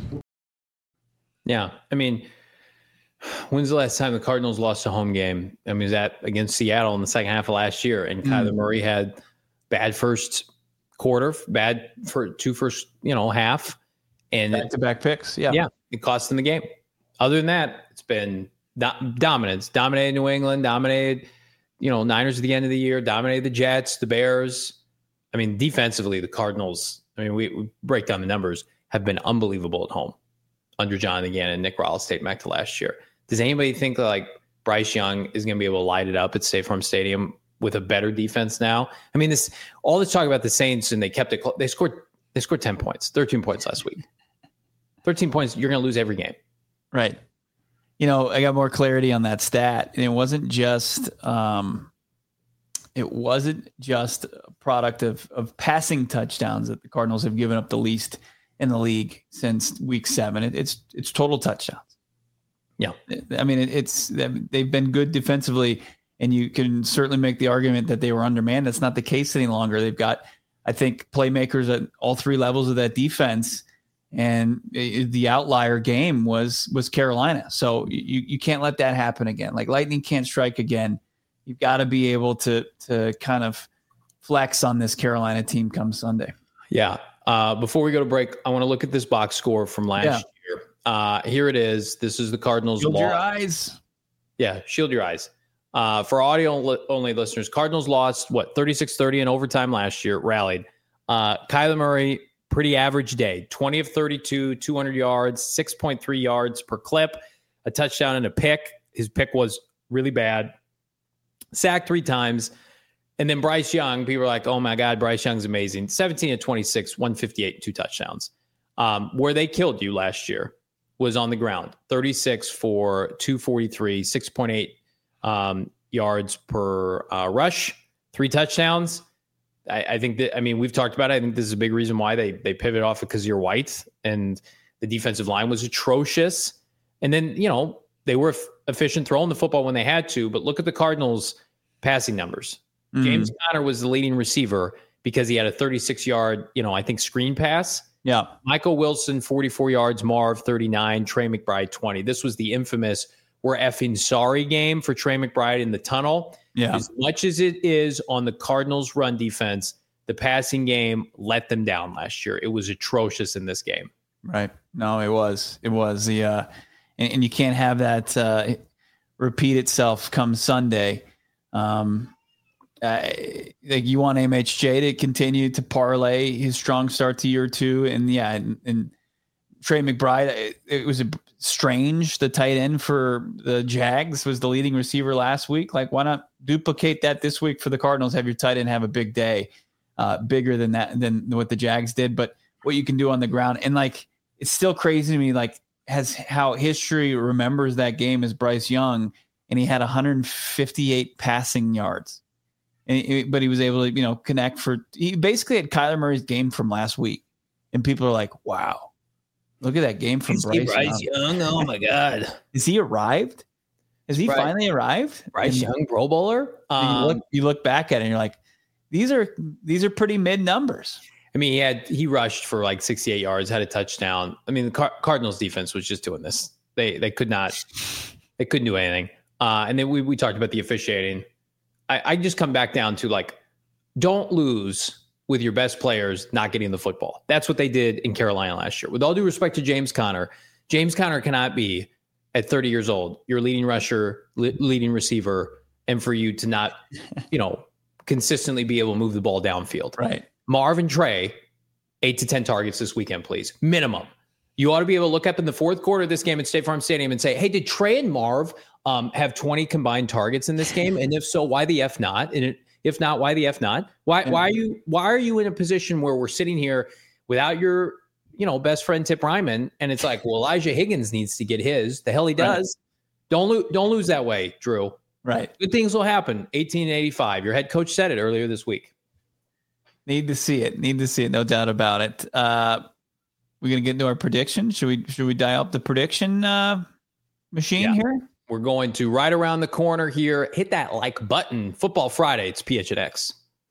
Yeah. I mean, when's the last time the Cardinals lost a home game? I mean, is that against Seattle in the second half of last year? And mm. Kyler Murray had bad first quarter, bad for two first, you know, half. And back-to-back picks. Yeah. Yeah. It cost them the game. Other than that, it's been do- dominance. Dominated New England, dominated – you know, Niners at the end of the year, dominated the Jets, the Bears. I mean, defensively, the Cardinals, I mean, we, we break down the numbers, have been unbelievable at home under Jonathan Gannon and Nick Rallis dating back to last year. Does anybody think that, like, Bryce Young is going to be able to light it up at State Farm Stadium with a better defense now? I mean, this all this talk about the Saints, and they kept it close. They scored, they scored ten points, thirteen points last week. thirteen points, you're going to lose every game. Right. You know, I got more clarity on that stat, and it wasn't just um, it wasn't just a product of of passing touchdowns that the Cardinals have given up the least in the league since week seven. It, it's it's total touchdowns. Yeah, I mean, it, it's they've been good defensively, and you can certainly make the argument that they were undermanned. That's not the case any longer. They've got, I think, playmakers at all three levels of that defense. And the outlier game was was Carolina. So you, you can't let that happen again. Like lightning can't strike again. You've got to be able to to kind of flex on this Carolina team come Sunday. Yeah. Uh, before we go to break, I want to look at this box score from last yeah. year. Uh, here it is. This is the Cardinals. Shield loss. your eyes. Yeah, shield your eyes. Uh, for audio-only listeners, Cardinals lost, what, thirty-six thirty in overtime last year, rallied. Uh, Kyler Murray, pretty average day, twenty of thirty-two, two hundred yards, six point three yards per clip, a touchdown and a pick. His pick was really bad. Sacked three times. And then Bryce Young, people are like, oh my God, Bryce Young's amazing. seventeen of twenty-six, one fifty-eight, two touchdowns. Um, where they killed you last year was on the ground. thirty-six for two forty-three, six point eight um, yards per uh, rush, three touchdowns. I, I think that, I mean, we've talked about it. I think this is a big reason why they they pivot off because you're white and the defensive line was atrocious. And then, you know, they were f- efficient throwing the football when they had to, but look at the Cardinals passing numbers. Mm-hmm. James Conner was the leading receiver because he had a thirty-six yard, you know, I think screen pass. Yeah. Michael Wilson, forty-four yards, Marv, thirty-nine, Trey McBride, twenty. This was the infamous we're effing sorry game for Trey McBride in the tunnel. Yeah. As much as it is on the Cardinals run defense, the passing game let them down last year. It was atrocious in this game. Right. No, it was. It was the, uh, and, and you can't have that uh, repeat itself come Sunday. Um, Uh, like you want M H J to continue to parlay his strong start to year two, and yeah, and, and Trey McBride. It, it was a strange. The tight end for the Jags was the leading receiver last week. Like, why not duplicate that this week for the Cardinals? Have your tight end have a big day, uh, bigger than that than what the Jags did. But what you can do on the ground, and like it's still crazy to me. Like has how history remembers that game as Bryce Young, and he had one hundred fifty-eight passing yards. And, but he was able to, you know, connect for. He basically had Kyler Murray's game from last week, and people are like, "Wow, look at that game from Bryce, Bryce Young." Young. Oh my God, is he arrived? Has he Bryce, finally arrived? Bryce and, Young, Pro Bowler. Um, you look, you look back at it, and you're like, "These are these are pretty mid numbers." I mean, he had he rushed for like sixty-eight yards, had a touchdown. I mean, the Car- Cardinals defense was just doing this. They they could not, they couldn't do anything. Uh, and then we we talked about the officiating. I, I just come back down to like, don't lose with your best players not getting the football. That's what they did in Carolina last year. With all due respect to James Conner, James Conner cannot be at thirty years old, your leading rusher, le- leading receiver, and for you to not, you know, consistently be able to move the ball downfield. Right. Marv and Trey, eight to ten targets this weekend, please. Minimum. You ought to be able to look up in the fourth quarter of this game at State Farm Stadium and say, hey, did Trey and Marv um, have twenty combined targets in this game? And if so, why the F not? And it, if not, why the F not? Why why are you why are you in a position where we're sitting here without your, you know, best friend Tip Ryman? And it's like, well, Elijah Higgins needs to get his. The hell he does. Right. Don't lose don't lose that way, Drew. Right. Good things will happen. eighteen eighty-five. Your head coach said it earlier this week. Need to see it. Need to see it. No doubt about it. Uh, we're gonna get into our prediction. Should we? Should we dial up the prediction uh, machine yeah. here? We're going to right around the corner here. Hit that like button. Football Friday. It's P H N X.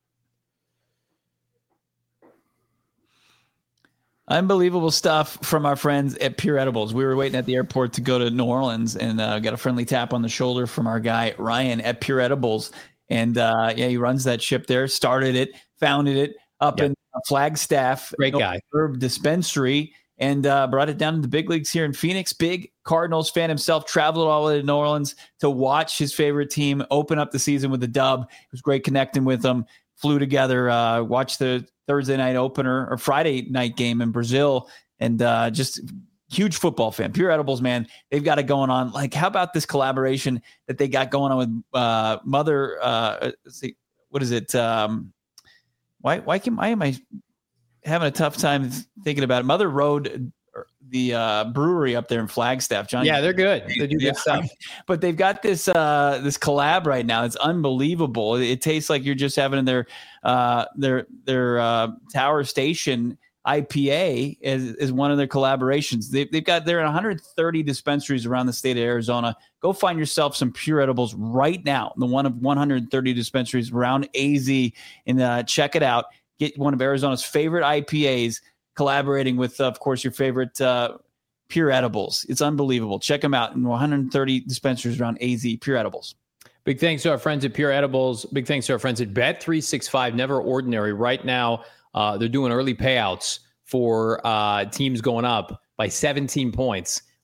Unbelievable stuff from our friends at Pure Edibles. We were waiting at the airport to go to New Orleans and uh, got a friendly tap on the shoulder from our guy Ryan at Pure Edibles. And uh, yeah, he runs that ship there. Started it, founded it up yep. in Flagstaff. Great guy. Herb Dispensary, and uh, brought it down to the big leagues here in Phoenix. Big Cardinals fan himself, traveled all the way to New Orleans to watch his favorite team open up the season with a dub. It was great connecting with them. Flew together, uh, watched the Thursday night opener or Friday night game in Brazil, and uh, just huge football fan. Pure Edibles, man, they've got it going on. Like, how about this collaboration that they got going on with uh, Mother? Uh, let's see, what is it? Um, why? Why can? Why am I having a tough time thinking about it? Mother Road, the uh, brewery up there in Flagstaff. John, yeah, they're good. They do good yeah. stuff. But they've got this uh, this collab right now. It's unbelievable. It, it tastes like you're just having their uh, their their uh, Tower Station I P A is, is one of their collaborations. They, they've got they're in one hundred thirty dispensaries around the state of Arizona. Go find yourself some Pure Edibles right now. The one of one hundred thirty dispensaries around A Z, and uh, check it out. Get one of Arizona's favorite I P As collaborating with, uh, of course, your favorite uh, Pure Edibles. It's unbelievable. Check them out in one hundred thirty dispensaries around A Z. Pure Edibles. Big thanks to our friends at Pure Edibles. Big thanks to our friends at Bet three sixty-five. Never Ordinary. Right now, uh, they're doing early payouts for uh, teams going up by seventeen points.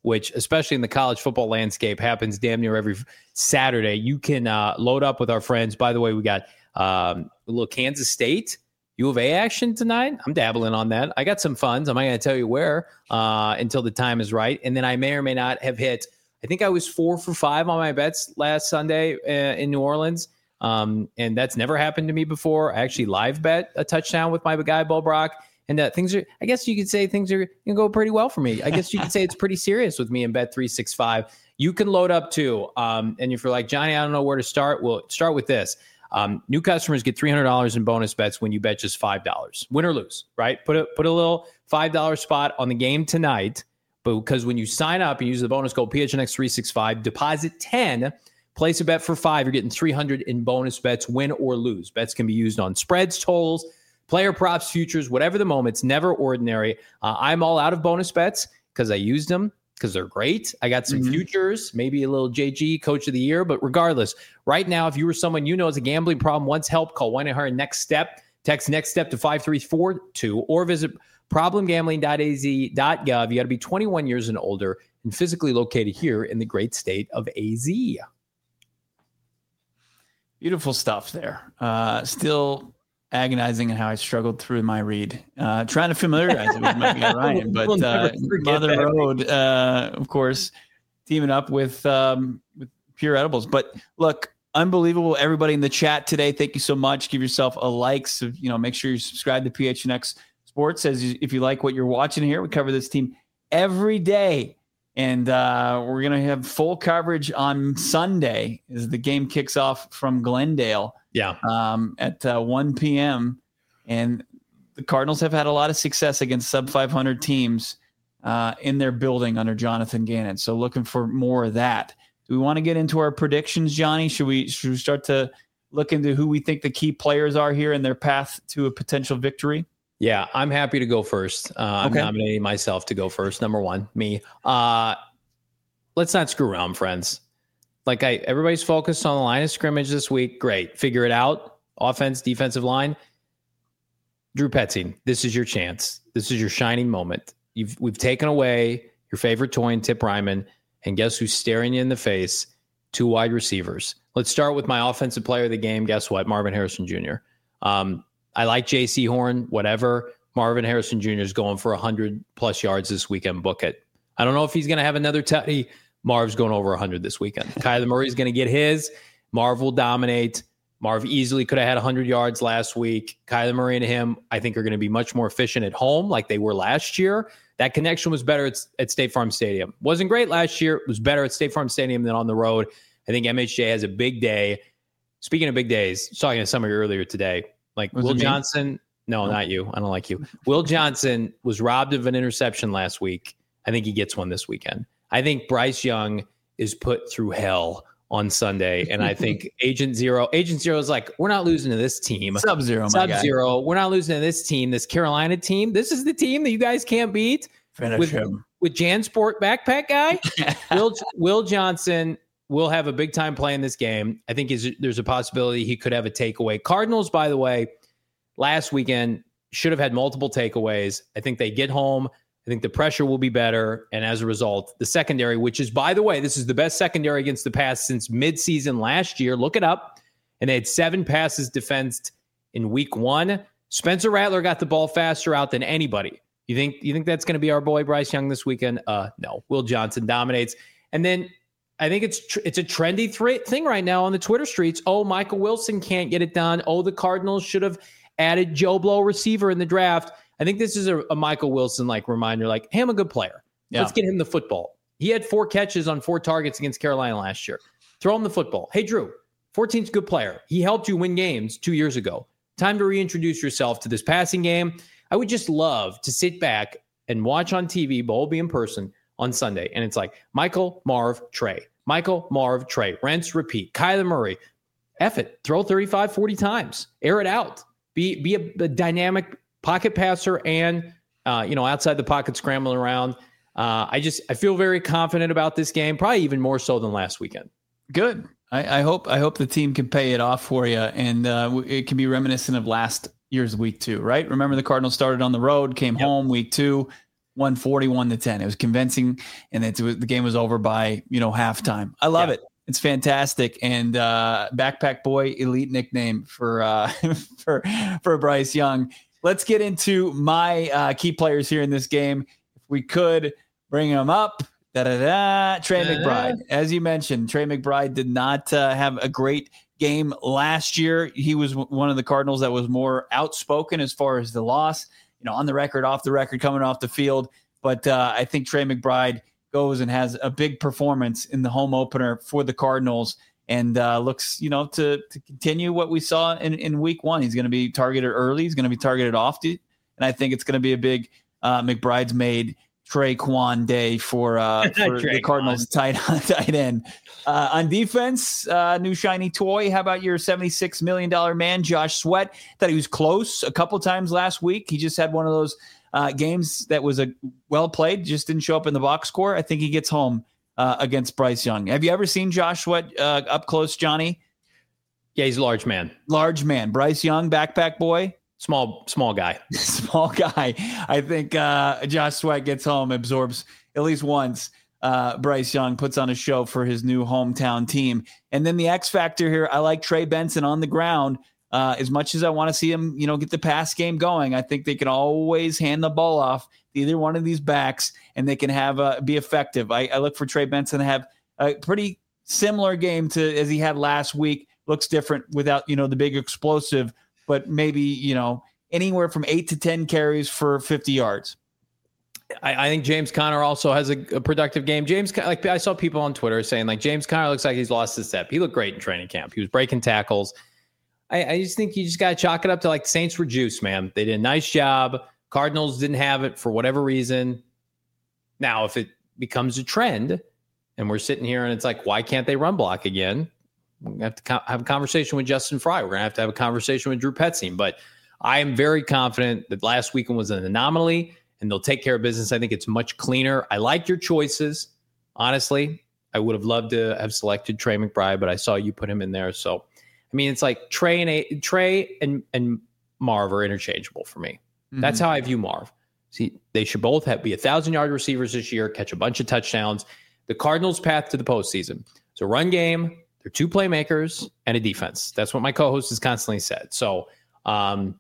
which especially in the college football landscape happens damn near every Saturday. You can uh, load up with our friends. By the way, we got um, a little Kansas State U of A action tonight. I'm dabbling on that. I got some funds. I'm not going to tell you where uh, until the time is right. And then I may or may not have hit, I think I was four for five on my bets last Sunday uh, in New Orleans. Um, and that's never happened to me before. I actually live bet a touchdown with my guy, Bo Brock. And uh, things are, I guess you could say things are going to go pretty well for me. I guess you could say it's pretty serious with me in Bet three sixty-five. You can load up too. Um, and if you're like, Johnny, I don't know where to start, well, start with this. Um, new customers get three hundred dollars in bonus bets when you bet just five dollars. Win or lose, right? Put a, put a little five dollars spot on the game tonight. But because when you sign up and use the bonus code P H N X three sixty-five, deposit ten, place a bet for five, you're getting three hundred in bonus bets, win or lose. Bets can be used on spreads, totals, player props, futures, whatever the moment. It's never ordinary. Uh, I'm all out of bonus bets because I used them because they're great. I got some mm-hmm. futures, maybe a little J G coach of the year. But regardless, right now, if you were someone you know has a gambling problem, wants help, call one eight hundred next step. Text next step to five three four two or visit problem gambling dot a z dot gov. You got to be twenty-one years and older and physically located here in the great state of A Z. Beautiful stuff there. Uh, still agonizing at how I struggled through my read, uh, trying to familiarize it with my guy Ryan, but we'll uh, Mother Road, uh, of course, teaming up with um, with Pure Edibles. But look, unbelievable! Everybody in the chat today, thank you so much. Give yourself a like. So you know, make sure you subscribe to P H N X Sports as you, if you like what you're watching here. We cover this team every day. And uh, we're going to have full coverage on Sunday as the game kicks off from Glendale yeah. um, at uh, one p.m. And the Cardinals have had a lot of success against sub five hundred teams uh, in their building under Jonathan Gannon. So looking for more of that. Do we want to get into our predictions, Johnny? Should we, should we start to look into who we think the key players are here in their path to a potential victory? Yeah, I'm happy to go first. Uh, I'm okay. nominating myself to go first. Number one, me. Uh, let's not screw around, friends. Like I, everybody's focused on the line of scrimmage this week. Great, figure it out. Offense, defensive line. Drew Petzing, this is your chance. This is your shining moment. You've we've taken away your favorite toy in Tip Ryman, and guess who's staring you in the face? Two wide receivers. Let's start with my offensive player of the game. Guess what? Marvin Harrison Junior Um, I like J C Horn, whatever. Marvin Harrison Junior is going for one hundred plus yards this weekend. Book it. I don't know if he's going to have another tutty. Marv's going over one hundred this weekend. Kyler Murray's going to get his. Marv will dominate. Marv easily could have had one hundred yards last week. Kyler Murray and him, I think, are going to be much more efficient at home like they were last year. That connection was better at, at State Farm Stadium. Wasn't great last year. It was better at State Farm Stadium than on the road. I think M H J has a big day. Speaking of big days, I was talking to somebody earlier today. Like was Will Johnson, no, no, not you. I don't like you. Will Johnson was robbed of an interception last week. I think he gets one this weekend. I think Bryce Young is put through hell on Sunday. And I think Agent Zero, Agent Zero is like, we're not losing to this team. Sub-Zero, Sub-Zero. We're not losing to this team, this Carolina team. This is the team that you guys can't beat. Finish with, him. With Jansport backpack guy. Will, Will Johnson will have a big time play in this game. I think is, there's a possibility he could have a takeaway. Cardinals, by the way, last weekend should have had multiple takeaways. I think they get home. I think the pressure will be better. And as a result, the secondary, which is, by the way, this is the best secondary against the pass since midseason last year. Look it up. And they had seven passes defensed in week one. Spencer Rattler got the ball faster out than anybody. You think, you think that's going to be our boy Bryce Young this weekend? Uh, no. Will Johnson dominates. And then I think it's tr- it's a trendy th- thing right now on the Twitter streets. Oh, Michael Wilson can't get it done. Oh, the Cardinals should have added Joe Blow receiver in the draft. I think this is a, a Michael Wilson-like reminder, like, hey, I'm a good player. Yeah. Let's get him the football. He had four catches on four targets against Carolina last year. Throw him the football. Hey, Drew, fourteen's a good player. He helped you win games two years ago. Time to reintroduce yourself to this passing game. I would just love to sit back and watch on T V, but we'll be in person on Sunday. And it's like Michael, Marv, Trey. Michael, Marv, Trey. Rents, repeat. Kyler Murray. F it. Throw thirty-five, forty times. Air it out. Be be a, a dynamic pocket passer and, uh, you know, outside the pocket scrambling around. Uh, I just I feel very confident about this game, probably even more so than last weekend. Good. I, I hope I hope the team can pay it off for you, and uh, it can be reminiscent of last year's week two, right? Remember the Cardinals started on the road, came yep. home week two, won forty-one to ten. It was convincing, and it was, the game was over by, you know, halftime. I love yeah. it. It's fantastic. And uh, Backpack Boy, elite nickname for uh, for for Bryce Young. Let's get into my uh, key players here in this game. If we could bring them up. Da, da, da. Trey Da-da. McBride. As you mentioned, Trey McBride did not uh, have a great game last year. He was w- one of the Cardinals that was more outspoken as far as the loss, you know, on the record, off the record, coming off the field. But uh, I think Trey McBride goes and has a big performance in the home opener for the Cardinals and uh, looks, you know, to, to continue what we saw in, in week one. He's going to be targeted early. He's going to be targeted often. And I think it's going to be a big uh, McBride's made Traquan day for, uh, for the Cardinals tight, tight end. Uh, on defense, uh, new shiny toy. How about your seventy-six million dollars man, Josh Sweat? Thought he was close a couple times last week. He just had one of those uh, games that was a well played, just didn't show up in the box score. I think he gets home uh, against Bryce Young. Have you ever seen Josh Sweat uh, up close, Johnny? Yeah, he's a large man. Large man. Bryce Young, backpack boy. Small, small guy. Small guy. I think uh, Josh Sweat gets home, absorbs at least once. Uh, Bryce Young puts on a show for his new hometown team. And then the X factor here, I like Trey Benson on the ground. Uh, as much as I want to see him, you know, get the pass game going, I think they can always hand the ball off to either one of these backs, and they can have uh, be effective. I, I look for Trey Benson to have a pretty similar game to as he had last week. Looks different without, you know, the big explosive, but maybe, you know, anywhere from eight to ten carries for fifty yards. I, I think James Conner also has a, a productive game. James, like I saw people on Twitter saying, like, James Conner looks like he's lost his step. He looked great in training camp. He was breaking tackles. I, I just think you just got to chalk it up to, like, the Saints were juice, man. They did a nice job. Cardinals didn't have it for whatever reason. Now, if it becomes a trend and we're sitting here and it's like, why can't they run block again? We're going to have to co- have a conversation with Justin Fry. We're going to have to have a conversation with Drew Petzing. But I am very confident that last weekend was an anomaly and they'll take care of business. I think it's much cleaner. I like your choices. Honestly, I would have loved to have selected Trey McBride, but I saw you put him in there. So, I mean, it's like Trey and a, Trey and, and Marv are interchangeable for me. Mm-hmm. That's how I view Marv. See, they should both have be a thousand yard receivers this year, catch a bunch of touchdowns. The Cardinals' path to the postseason. It's a run game. They're two playmakers and a defense. That's what my co-host has constantly said. So, um,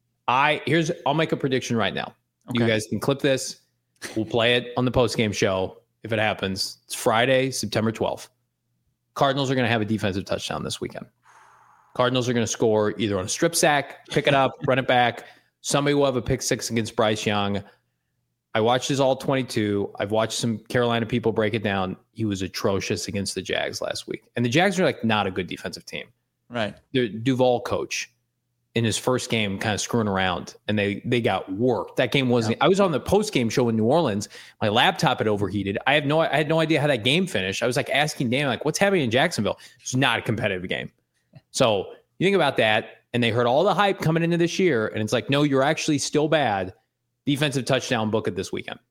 I here's I'll make a prediction right now. Okay. You guys can clip this. We'll play it on the post-game show if it happens. It's Friday, September twelfth. Cardinals are going to have a defensive touchdown this weekend. Cardinals are going to score either on a strip sack, pick it up, run it back. Somebody will have a pick six against Bryce Young. I watched his all twenty-two. I've watched some Carolina people break it down. He was atrocious against the Jags last week. And the Jags are like not a good defensive team. Right. The Duval coach in his first game kind of screwing around, and they they got worked. That game wasn't yeah. I was on the post-game show in New Orleans. My laptop had overheated. I have no I had no idea how that game finished. I was like asking Dan, like, what's happening in Jacksonville? It's not a competitive game. So you think about that, and they heard all the hype coming into this year, and it's like, no, you're actually still bad. Defensive touchdown, book it this weekend.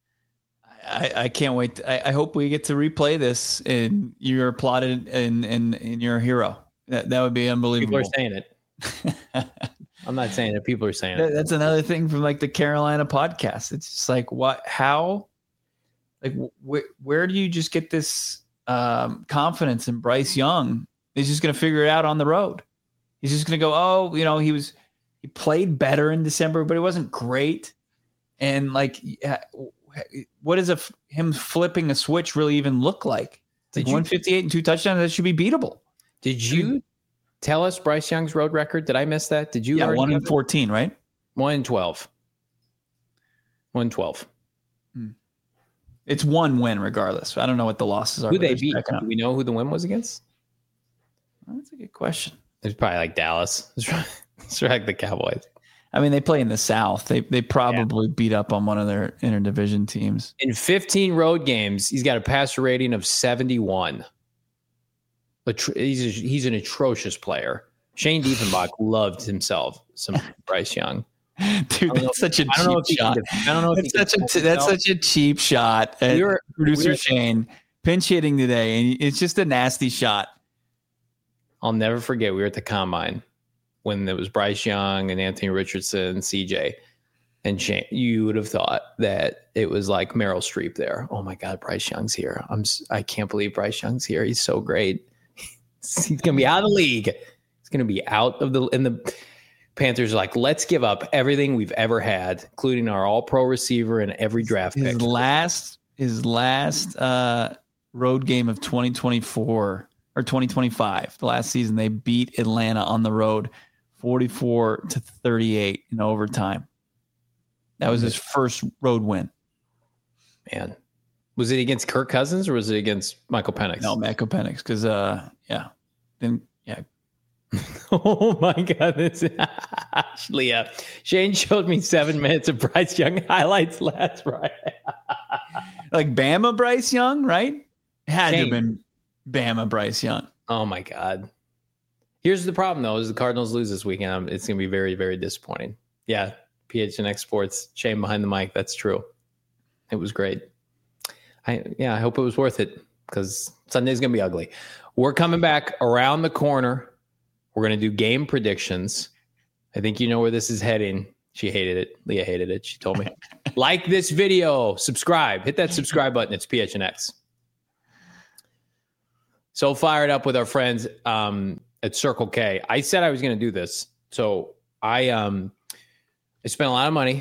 I, I can't wait. I, I hope we get to replay this and you're applauded and and, and you're a hero. That that would be unbelievable. People are saying it. I'm not saying it. People are saying that, it. That's another thing from like the Carolina podcast. It's just like, what, how, like, wh- where do you just get this um, confidence in Bryce Young? He's just going to figure it out on the road. He's just going to go, oh, you know, he was, he played better in December, but it wasn't great. And like, what does a, him flipping a switch really even look like? It's like one fifty-eight and two touchdowns. That should be beatable. Did you tell us Bryce Young's road record? Did I miss that? Did you? Yeah, one in fourteen, right? One in twelve. One in twelve. Hmm. It's one win regardless. I don't know what the losses are. Who they beat? Do we know who the win was against? Well, that's a good question. It's probably like Dallas. It's probably, it's like the Cowboys. I mean, they play in the South. They they probably yeah. beat up on one of their interdivision teams. In fifteen road games, he's got a passer rating of seventy-one. He's a, he's an atrocious player. Shane Diefenbach loved himself some Bryce Young. Dude, that's such a cheap shot. I don't know if that's such a that's such a cheap shot. We were, producer we were, Shane pinch hitting today, and it's just a nasty shot. I'll never forget. We were at the combine when there was Bryce Young and Anthony Richardson, C J, And Shane, you would have thought that it was like Meryl Streep there. Oh my God, Bryce Young's here. I'm I can't believe Bryce Young's here. He's so great. He's gonna be out of the league. He's gonna be out of the in the Panthers are like, let's give up everything we've ever had, including our all-pro receiver and every draft his pick. Last his last uh, road game of twenty twenty-four or twenty twenty-five, the last season, they beat Atlanta on the road forty-four to thirty-eight in overtime. That was his first road win. Man, was it against Kirk Cousins or was it against Michael Penix? No, Michael Penix, because uh, yeah, then yeah. Oh my God, this Leah. Shane showed me seven minutes of Bryce Young highlights last Friday. Like Bama Bryce Young, right? It had Shane. to have been Bama Bryce Young. Oh my God. Here's the problem though: is the Cardinals lose this weekend, it's going to be very, very disappointing. Yeah. P H N X Sports, Shane behind the mic. That's true. It was great. I yeah, I hope it was worth it because Sunday's gonna be ugly. We're coming back around the corner. We're gonna do game predictions. I think you know where this is heading. She hated it. Leah hated it. She told me. Like this video, subscribe, hit that subscribe button. It's P H N X. So fired up with our friends um, at Circle K. I said I was gonna do this, so I um. I spent a lot of money.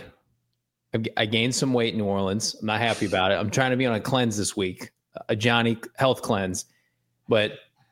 I gained some weight in New Orleans. I'm not happy about it. I'm trying to be on a cleanse this week, a Johnny health cleanse. But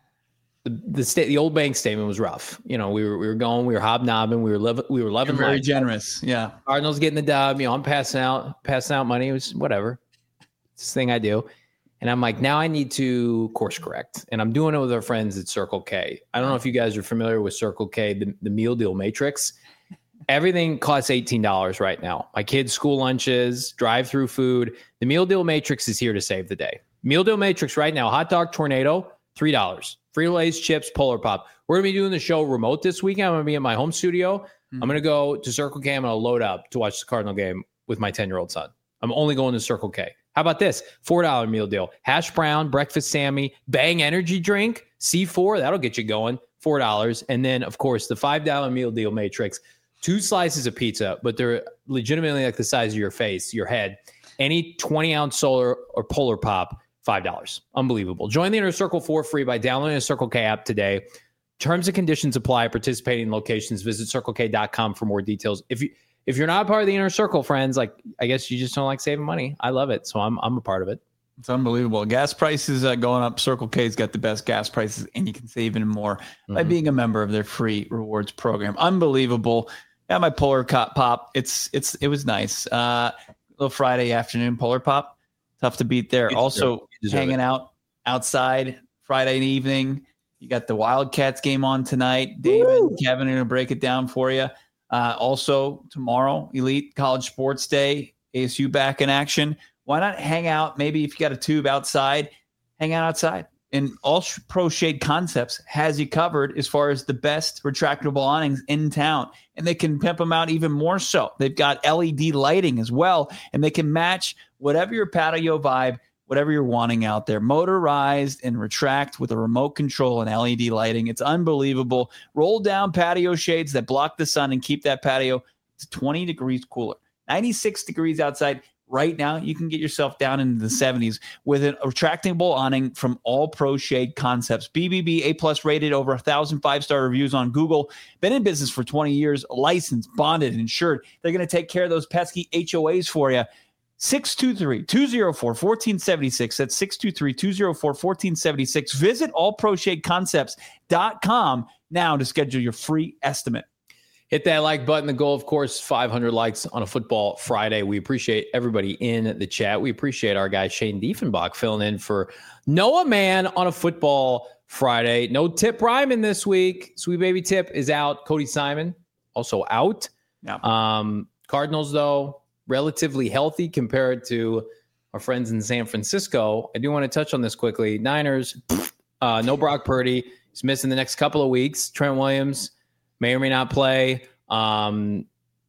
the the, state, the old bank statement was rough. You know, we were we were going, we were hobnobbing, we were living, we were loving. You're very life. generous, yeah. Cardinals getting the dub. You know, I'm passing out, passing out money. It was whatever. It's this thing I do. And I'm like, now I need to course correct. And I'm doing it with our friends at Circle K. I don't know if you guys are familiar with Circle K, the, the meal deal matrix. Everything costs eighteen dollars right now. My kids' school lunches, drive-through food. The Meal Deal Matrix is here to save the day. Meal Deal Matrix right now, hot dog tornado, three dollars. Frito-Lay's, chips, Polar Pop. We're going to be doing the show remote this weekend. I'm going to be in my home studio. Mm-hmm. I'm going to go to Circle K. I'm going to load up to watch the Cardinal game with my ten-year-old son. I'm only going to Circle K. How about this? four dollars meal deal. Hash brown, breakfast Sammy, Bang energy drink, C four. That'll get you going, four dollars. And then, of course, the five dollars meal deal matrix. Two slices of pizza, but they're legitimately like the size of your face, your head. Any twenty-ounce solar or Polar Pop, five dollars. Unbelievable. Join the Inner Circle for free by downloading the Circle K app today. Terms and conditions apply. Participating locations. Visit circle k dot com for more details. If you if you're not a part of the Inner Circle, friends, like I guess you just don't like saving money. I love it, so I'm I'm a part of it. It's unbelievable. Gas prices uh, going up. Circle K's got the best gas prices, and you can save even more mm-hmm. by being a member of their free rewards program. Unbelievable. Got my Polar Pop. It's it's it was nice. Uh, little Friday afternoon Polar Pop. Tough to beat there. You also hanging it. out outside Friday evening. You got the Wildcats game on tonight. David Woo! and Kevin are going to break it down for you. Uh, also tomorrow, Elite College Sports Day. A S U back in action. Why not hang out? Maybe if you got a tube outside, hang out outside. And All Pro Shade Concepts has you covered as far as the best retractable awnings in town. And they can pimp them out even more so. They've got L E D lighting as well, and they can match whatever your patio vibe, whatever you're wanting out there. Motorized and retract with a remote control and L E D lighting. It's unbelievable. Roll down patio shades that block the sun and keep that patio to twenty degrees cooler. ninety-six degrees outside. Right now, you can get yourself down into the seventies with a retractable awning from All Pro Shade Concepts. B B B A-plus rated, over one thousand five-star reviews on Google. Been in business for twenty years, licensed, bonded, insured. They're going to take care of those pesky H O As for you. six two three, two oh four, one four seven six. That's six two three, two oh four, one four seven six. Visit all pro shade concepts dot com now to schedule your free estimate. Hit that like button. The goal, of course, five hundred likes on a football Friday. We appreciate everybody in the chat. We appreciate our guy Shane Diefenbach filling in for Noah Mann on a football Friday. No Tip Ryman this week. Sweet Baby Tip is out. Cody Simon also out. Yeah. Um, Cardinals, though, relatively healthy compared to our friends in San Francisco. I do want to touch on this quickly. Niners, uh, no Brock Purdy. He's missing the next couple of weeks. Trent Williams may or may not play. Um,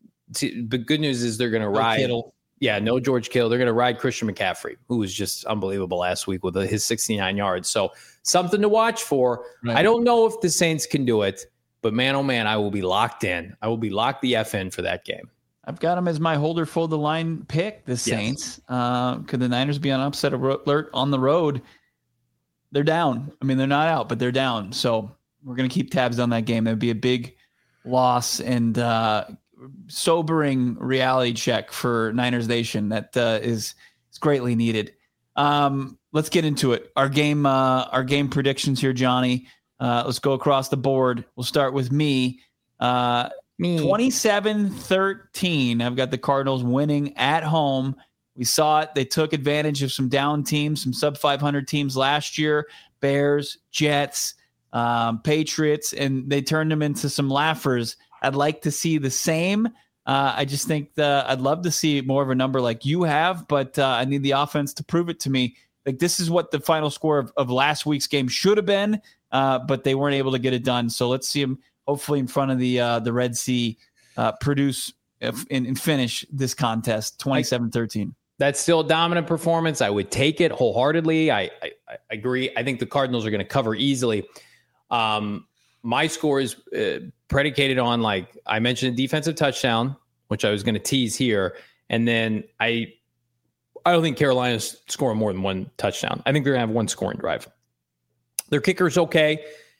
t- but good news is they're going to No ride. Kittle. Yeah, no George Kittle. They're going to ride Christian McCaffrey, who was just unbelievable last week with his sixty-nine yards. So something to watch for. Right. I don't know if the Saints can do it, but man, oh man, I will be locked in. I will be locked the F in for that game. I've got them as my holder fold the line pick, the Saints. Yes. Uh, could the Niners be on upset alert on the road? They're down. I mean, they're not out, but they're down. So we're going to keep tabs on that game. That would be a big loss and uh, sobering reality check for Niners Nation that uh, is, is greatly needed. Um, let's get into it. Our game, uh, our game predictions here, Johnny. Uh, let's go across the board. We'll start with me. Uh, Me. twenty-seven thirteen. I've got the Cardinals winning at home. We saw it. They took advantage of some down teams, some sub five hundred teams last year, Bears, Jets, um, Patriots, and they turned them into some laughers. I'd like to see the same. Uh, I just think the, I'd love to see more of a number like you have, but uh, I need the offense to prove it to me. Like this is what the final score of, of last week's game should have been, uh, but they weren't able to get it done. So let's see them hopefully in front of the uh, the Red Sea, uh, produce and, and finish this contest twenty-seven thirteen. That's still a dominant performance. I would take it wholeheartedly. I, I, I agree. I think the Cardinals are going to cover easily. Um, my score is uh, predicated on, like I mentioned, a defensive touchdown, which I was going to tease here. And then I I don't think Carolina's scoring more than one touchdown. I think they're going to have one scoring drive. Their kicker's okay.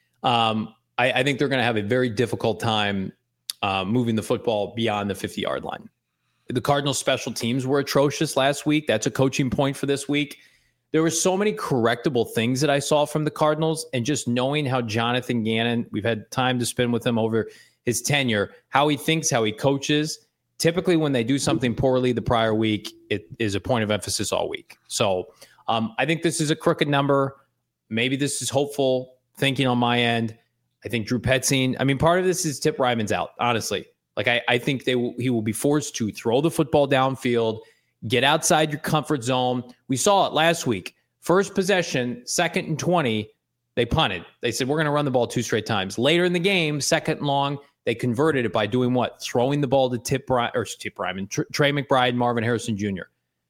Um, I, I think they're going to have a very difficult time uh, moving the football beyond the fifty-yard line. The Cardinals' special teams were atrocious last week. That's a coaching point for this week. There were so many correctable things that I saw from the Cardinals, and just knowing how Jonathan Gannon, we've had time to spend with him over his tenure, how he thinks, how he coaches. Typically, when they do something poorly the prior week, it is a point of emphasis all week. So um, I think this is a crooked number. Maybe this is hopeful thinking on my end. I think Drew Petzing, I mean, part of this is Tip Ryman's out, honestly. Like, I, I think they will, he will be forced to throw the football downfield, get outside your comfort zone. We saw it last week. First possession, second and twenty, they punted. They said, we're going to run the ball two straight times. Later in the game, second and long, they converted it by doing what? Throwing the ball to Tip, Ry- or Tip Ryman, Tr- Trey McBride, Marvin Harrison Junior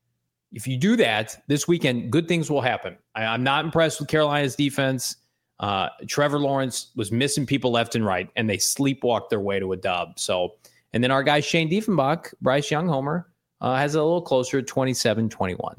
If you do that this weekend, good things will happen. I, I'm not impressed with Carolina's defense. Uh, Trevor Lawrence was missing people left and right, and they sleepwalked their way to a dub. So, and then our guy Shane Diefenbach, Bryce Young homer, uh, has a little closer, twenty-seven twenty-one.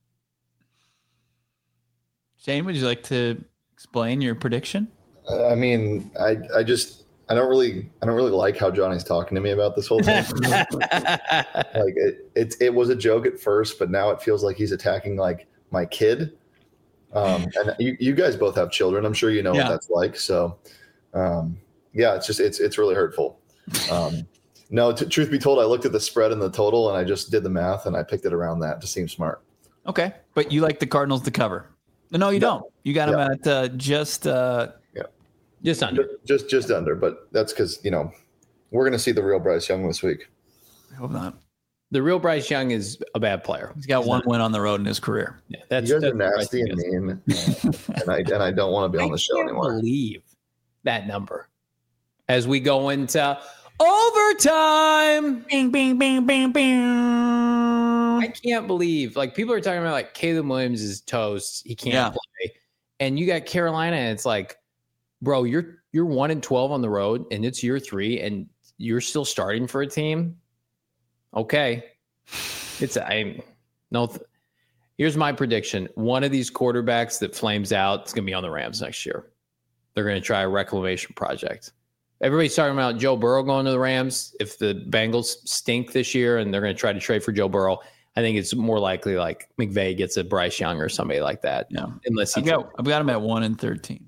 Shane, would you like to explain your prediction? Uh, I mean, I I just I don't really I don't really like how Johnny's talking to me about this whole thing. Like it it it was a joke at first, but now it feels like he's attacking like my kid. Um, and you, you guys both have children. I'm sure you know yeah. what that's like. So, um, yeah, it's just, it's, it's really hurtful. Um, no, t- truth be told, I looked at the spread and the total and I just did the math and I picked it around that to seem smart. Okay. But you like the Cardinals to cover? No, you yeah. don't. You got yeah. them at uh, just, uh, yeah, just under, just, just, just under, but that's cause you know, we're going to see the real Bryce Young this week. I hope not. The real Bryce Young is a bad player. He's got He's one not. win on the road in his career. Yeah, that's, you guys that's are nasty and mean, and I and I don't want to be on the show anymore. I can't believe that number as we go into overtime. Bing, bing, bing, bing, bing. I can't believe, like, people are talking about like Caleb Williams is toast. He can't yeah. play, and you got Carolina, and it's like, bro, you're you're one and twelve on the road, and it's year three, and you're still starting for a team. Okay. It's I no th- here's my prediction. One of these quarterbacks that flames out is going to be on the Rams next year. They're going to try a reclamation project. Everybody's talking about Joe Burrow going to the Rams. If the Bengals stink this year and they're going to try to trade for Joe Burrow, I think it's more likely like McVay gets a Bryce Young or somebody like that. No, unless he I've got, I've got him at one and thirteen.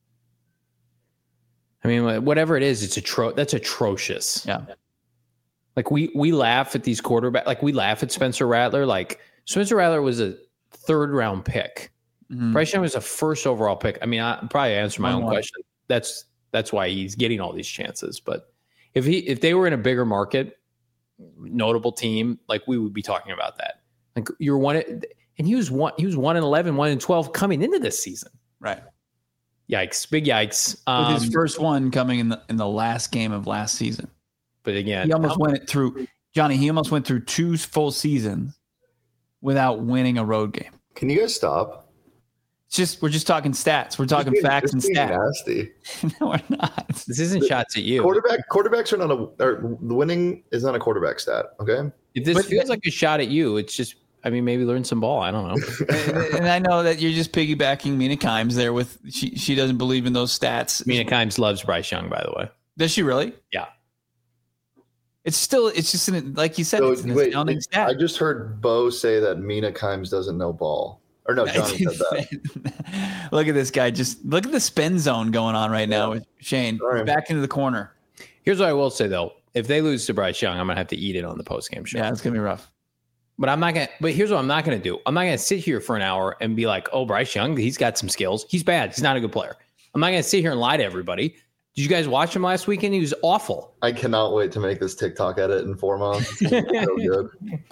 I mean, whatever it is, it's atro- that's atrocious. Yeah. Like we we laugh at these quarterbacks. Like we laugh at Spencer Rattler. Like Spencer Rattler was a third round pick. Mm-hmm. Bryce Young was a first overall pick. I mean, I probably answer my own one. question. That's that's why he's getting all these chances. But if he if they were in a bigger market, notable team, like we would be talking about that. Like you're one, and he was one. He was one and eleven, one and twelve coming into this season. Right. Yikes! Big yikes. Um, With his first one coming in the in the last game of last season. But again, he almost went it through Johnny. He almost went through two full seasons without winning a road game. Can you guys stop? It's just we're just talking stats. We're talking being, facts and stats. Nasty. No, we're not. This isn't The shots at you. Quarterback quarterbacks are not a or the winning is not a quarterback stat. Okay. If this But- feels like a shot at you, it's just. I mean, maybe learn some ball. I don't know. and, and I know that you're just piggybacking Mina Kimes there with she she doesn't believe in those stats. Mina Kimes loves Bryce Young, by the way. Does she really? Yeah. It's still it's just an, like you said, So, it's an wait, astounding I stat. just heard Bo say that Mina Kimes doesn't know ball. Or no, Johnny said that. Look at this guy. Just look at the spin zone going on right now Yeah. with Shane. Sorry. Back into the corner. Here's what I will say though: if they lose to Bryce Young, I'm gonna have to eat it on the post game show. Yeah, it's gonna be rough. But I'm not gonna. But here's what I'm not gonna do: I'm not gonna sit here for an hour and be like, "Oh, Bryce Young, he's got some skills. He's bad. He's not a good player." I'm not gonna sit here and lie to everybody. Did you guys watch him last weekend? He was awful. I cannot wait to make this TikTok edit in four months. It's gonna be so good.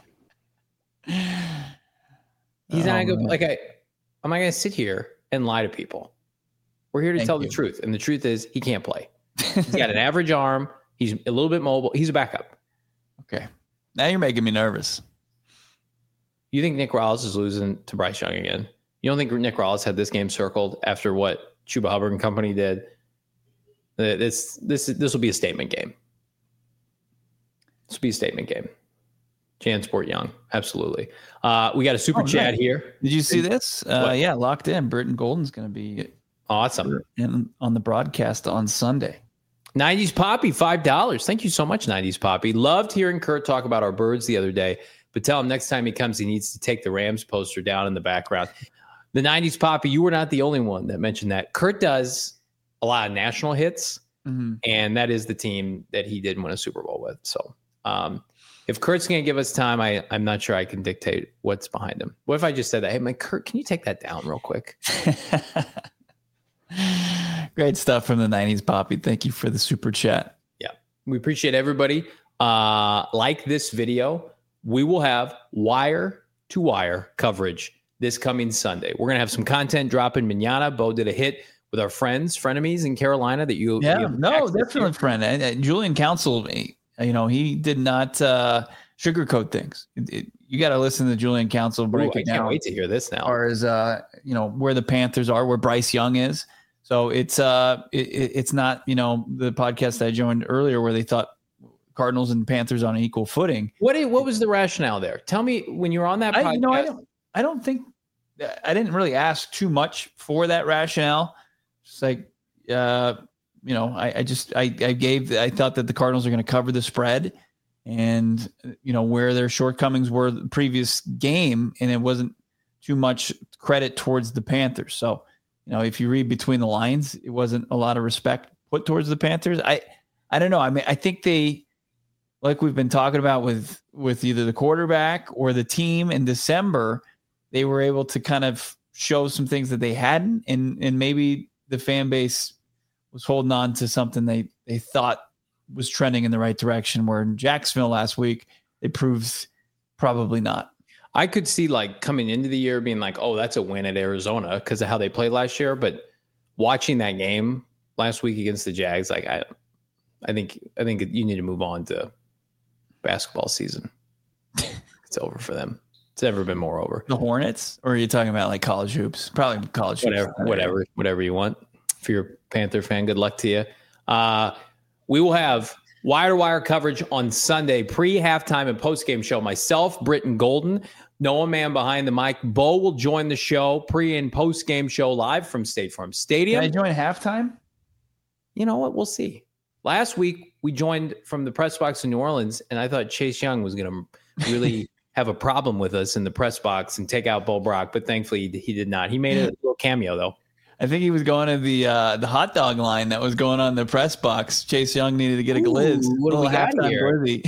He's Oh, not a good. man. Like I, I'm not gonna sit here and lie to people. We're here to Thank tell you. the truth, and the truth is he can't play. He's got an average arm. He's a little bit mobile. He's a backup. Okay. Now you're making me nervous. You think Nick Rawls is losing to Bryce Young again? You don't think Nick Rawls had this game circled after what Chuba Hubbard and company did? Uh, This this this will be a statement game. This will be a statement game. Jansport Young, absolutely. Uh, we got a super Oh, chat nice. here. Did you see this? Uh, What? yeah, locked in. Britton Golden's going to be Awesome. in, on the broadcast on Sunday. nineties Poppy, five dollars. Thank you so much, nineties Poppy. Loved hearing Kurt talk about our birds the other day, but tell him next time he comes, he needs to take the Rams poster down in the background. The nineties Poppy, you were not the only one that mentioned that. Kurt does a lot of national hits, Mm-hmm. and that is the team that he did win a Super Bowl with. So um, if Kurt's going to give us time, I, I'm not sure I can dictate what's behind him. What if I just said that? Hey, man, Kurt, can you take that down real quick? Great stuff from the nineties, Poppy. Thank you for the super chat. We appreciate everybody. Uh, like this video, we will have wire to wire coverage this coming Sunday. We're going to have some content dropping manana. Bo did a hit with our friends, frenemies in Carolina that you, Yeah, you have no, access to. definitely, friend. And, uh, Julian Council, you know, he did not uh, sugarcoat things. It, it, you got to listen to Julian Council break Ooh, I it can't down. wait to hear this As now. far as uh, you know, where the Panthers are, where Bryce Young is. So it's uh, it, it's not, you know, the podcast that I joined earlier where they thought Cardinals and Panthers on an equal footing. What what was the rationale there? Tell me when you were on that podcast. I, you know, I don't, I don't think I didn't really ask too much for that rationale. It's like, uh, you know, I, I just I, I gave I thought that the Cardinals are going to cover the spread, and you know where their shortcomings were the previous game, and it wasn't too much credit towards the Panthers. So, you know, if you read between the lines, it wasn't a lot of respect put towards the Panthers. I I don't know. I mean, I think they, like we've been talking about with with either the quarterback or the team in December, they were able to kind of show some things that they hadn't, and and maybe the fan base was holding on to something they they thought was trending in the right direction. Where in Jacksonville last week, it proves probably not. I could see like coming into the year being like, oh, that's a win at Arizona because of how they played last year. But watching that game last week against the Jags, like I, I think I think you need to move on to basketball season. It's over for them. It's never been more over. The Hornets, or are you talking about like college hoops? Probably college hoops. Whatever, whatever, whatever you want. If you're a Panther fan, good luck to you. Uh, we will have wire to wire coverage on Sunday, pre halftime and post game show. Myself, Britton Golden, Noah Man behind the mic. Bo will join the show, pre and post game show live from State Farm Stadium. Can I join halftime? You know what? We'll see. Last week we joined from the press box in New Orleans, and I thought Chase Young was going to really have a problem with us in the press box and take out Bo Brock, but thankfully he did not. He made a little cameo though. I think he was going to the uh, the hot dog line that was going on in the press box. Chase Young needed to get a Ooh, glizz. what do we Little got halftime here? worthy.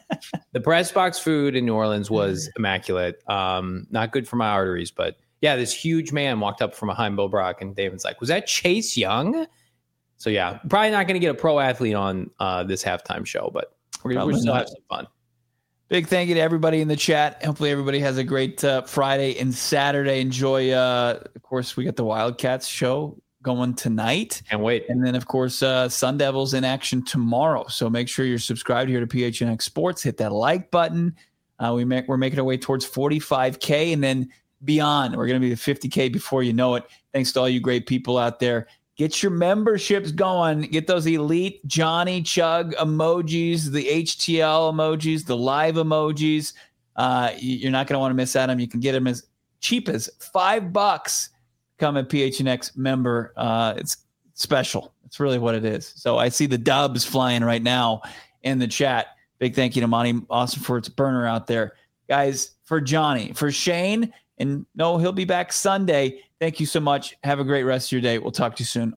The press box food in New Orleans was immaculate. Um, not good for my arteries, but yeah, this huge man walked up from behind Bo Brock, and David's like, "Was that Chase Young?" So yeah, probably not going to get a pro athlete on uh, this halftime show, but we're going to still not. have some fun. Big thank you to everybody in the chat. Hopefully everybody has a great uh, Friday and Saturday. Enjoy. Uh, of course, we got the Wildcats show going tonight. Can't wait. And then, of course, uh, Sun Devils in action tomorrow. So make sure you're subscribed here to P H N X Sports. Hit that like button. Uh, we make, we're making our way towards forty-five K. And then beyond. We're going to be at fifty K before you know it. Thanks to all you great people out there. Get your memberships going. Get those elite Johnny Chug emojis, the H T L emojis, the live emojis. Uh, you're not going to want to miss out on them. You can get them as cheap as five bucks. Become a P H N X member. Uh, it's special. It's really what it is. So I see the dubs flying right now in the chat. Big thank you to Monty Austin for its burner out there. Guys, for Johnny, for Shane, and no, he'll be back Sunday. Thank you so much. Have a great rest of your day. We'll talk to you soon.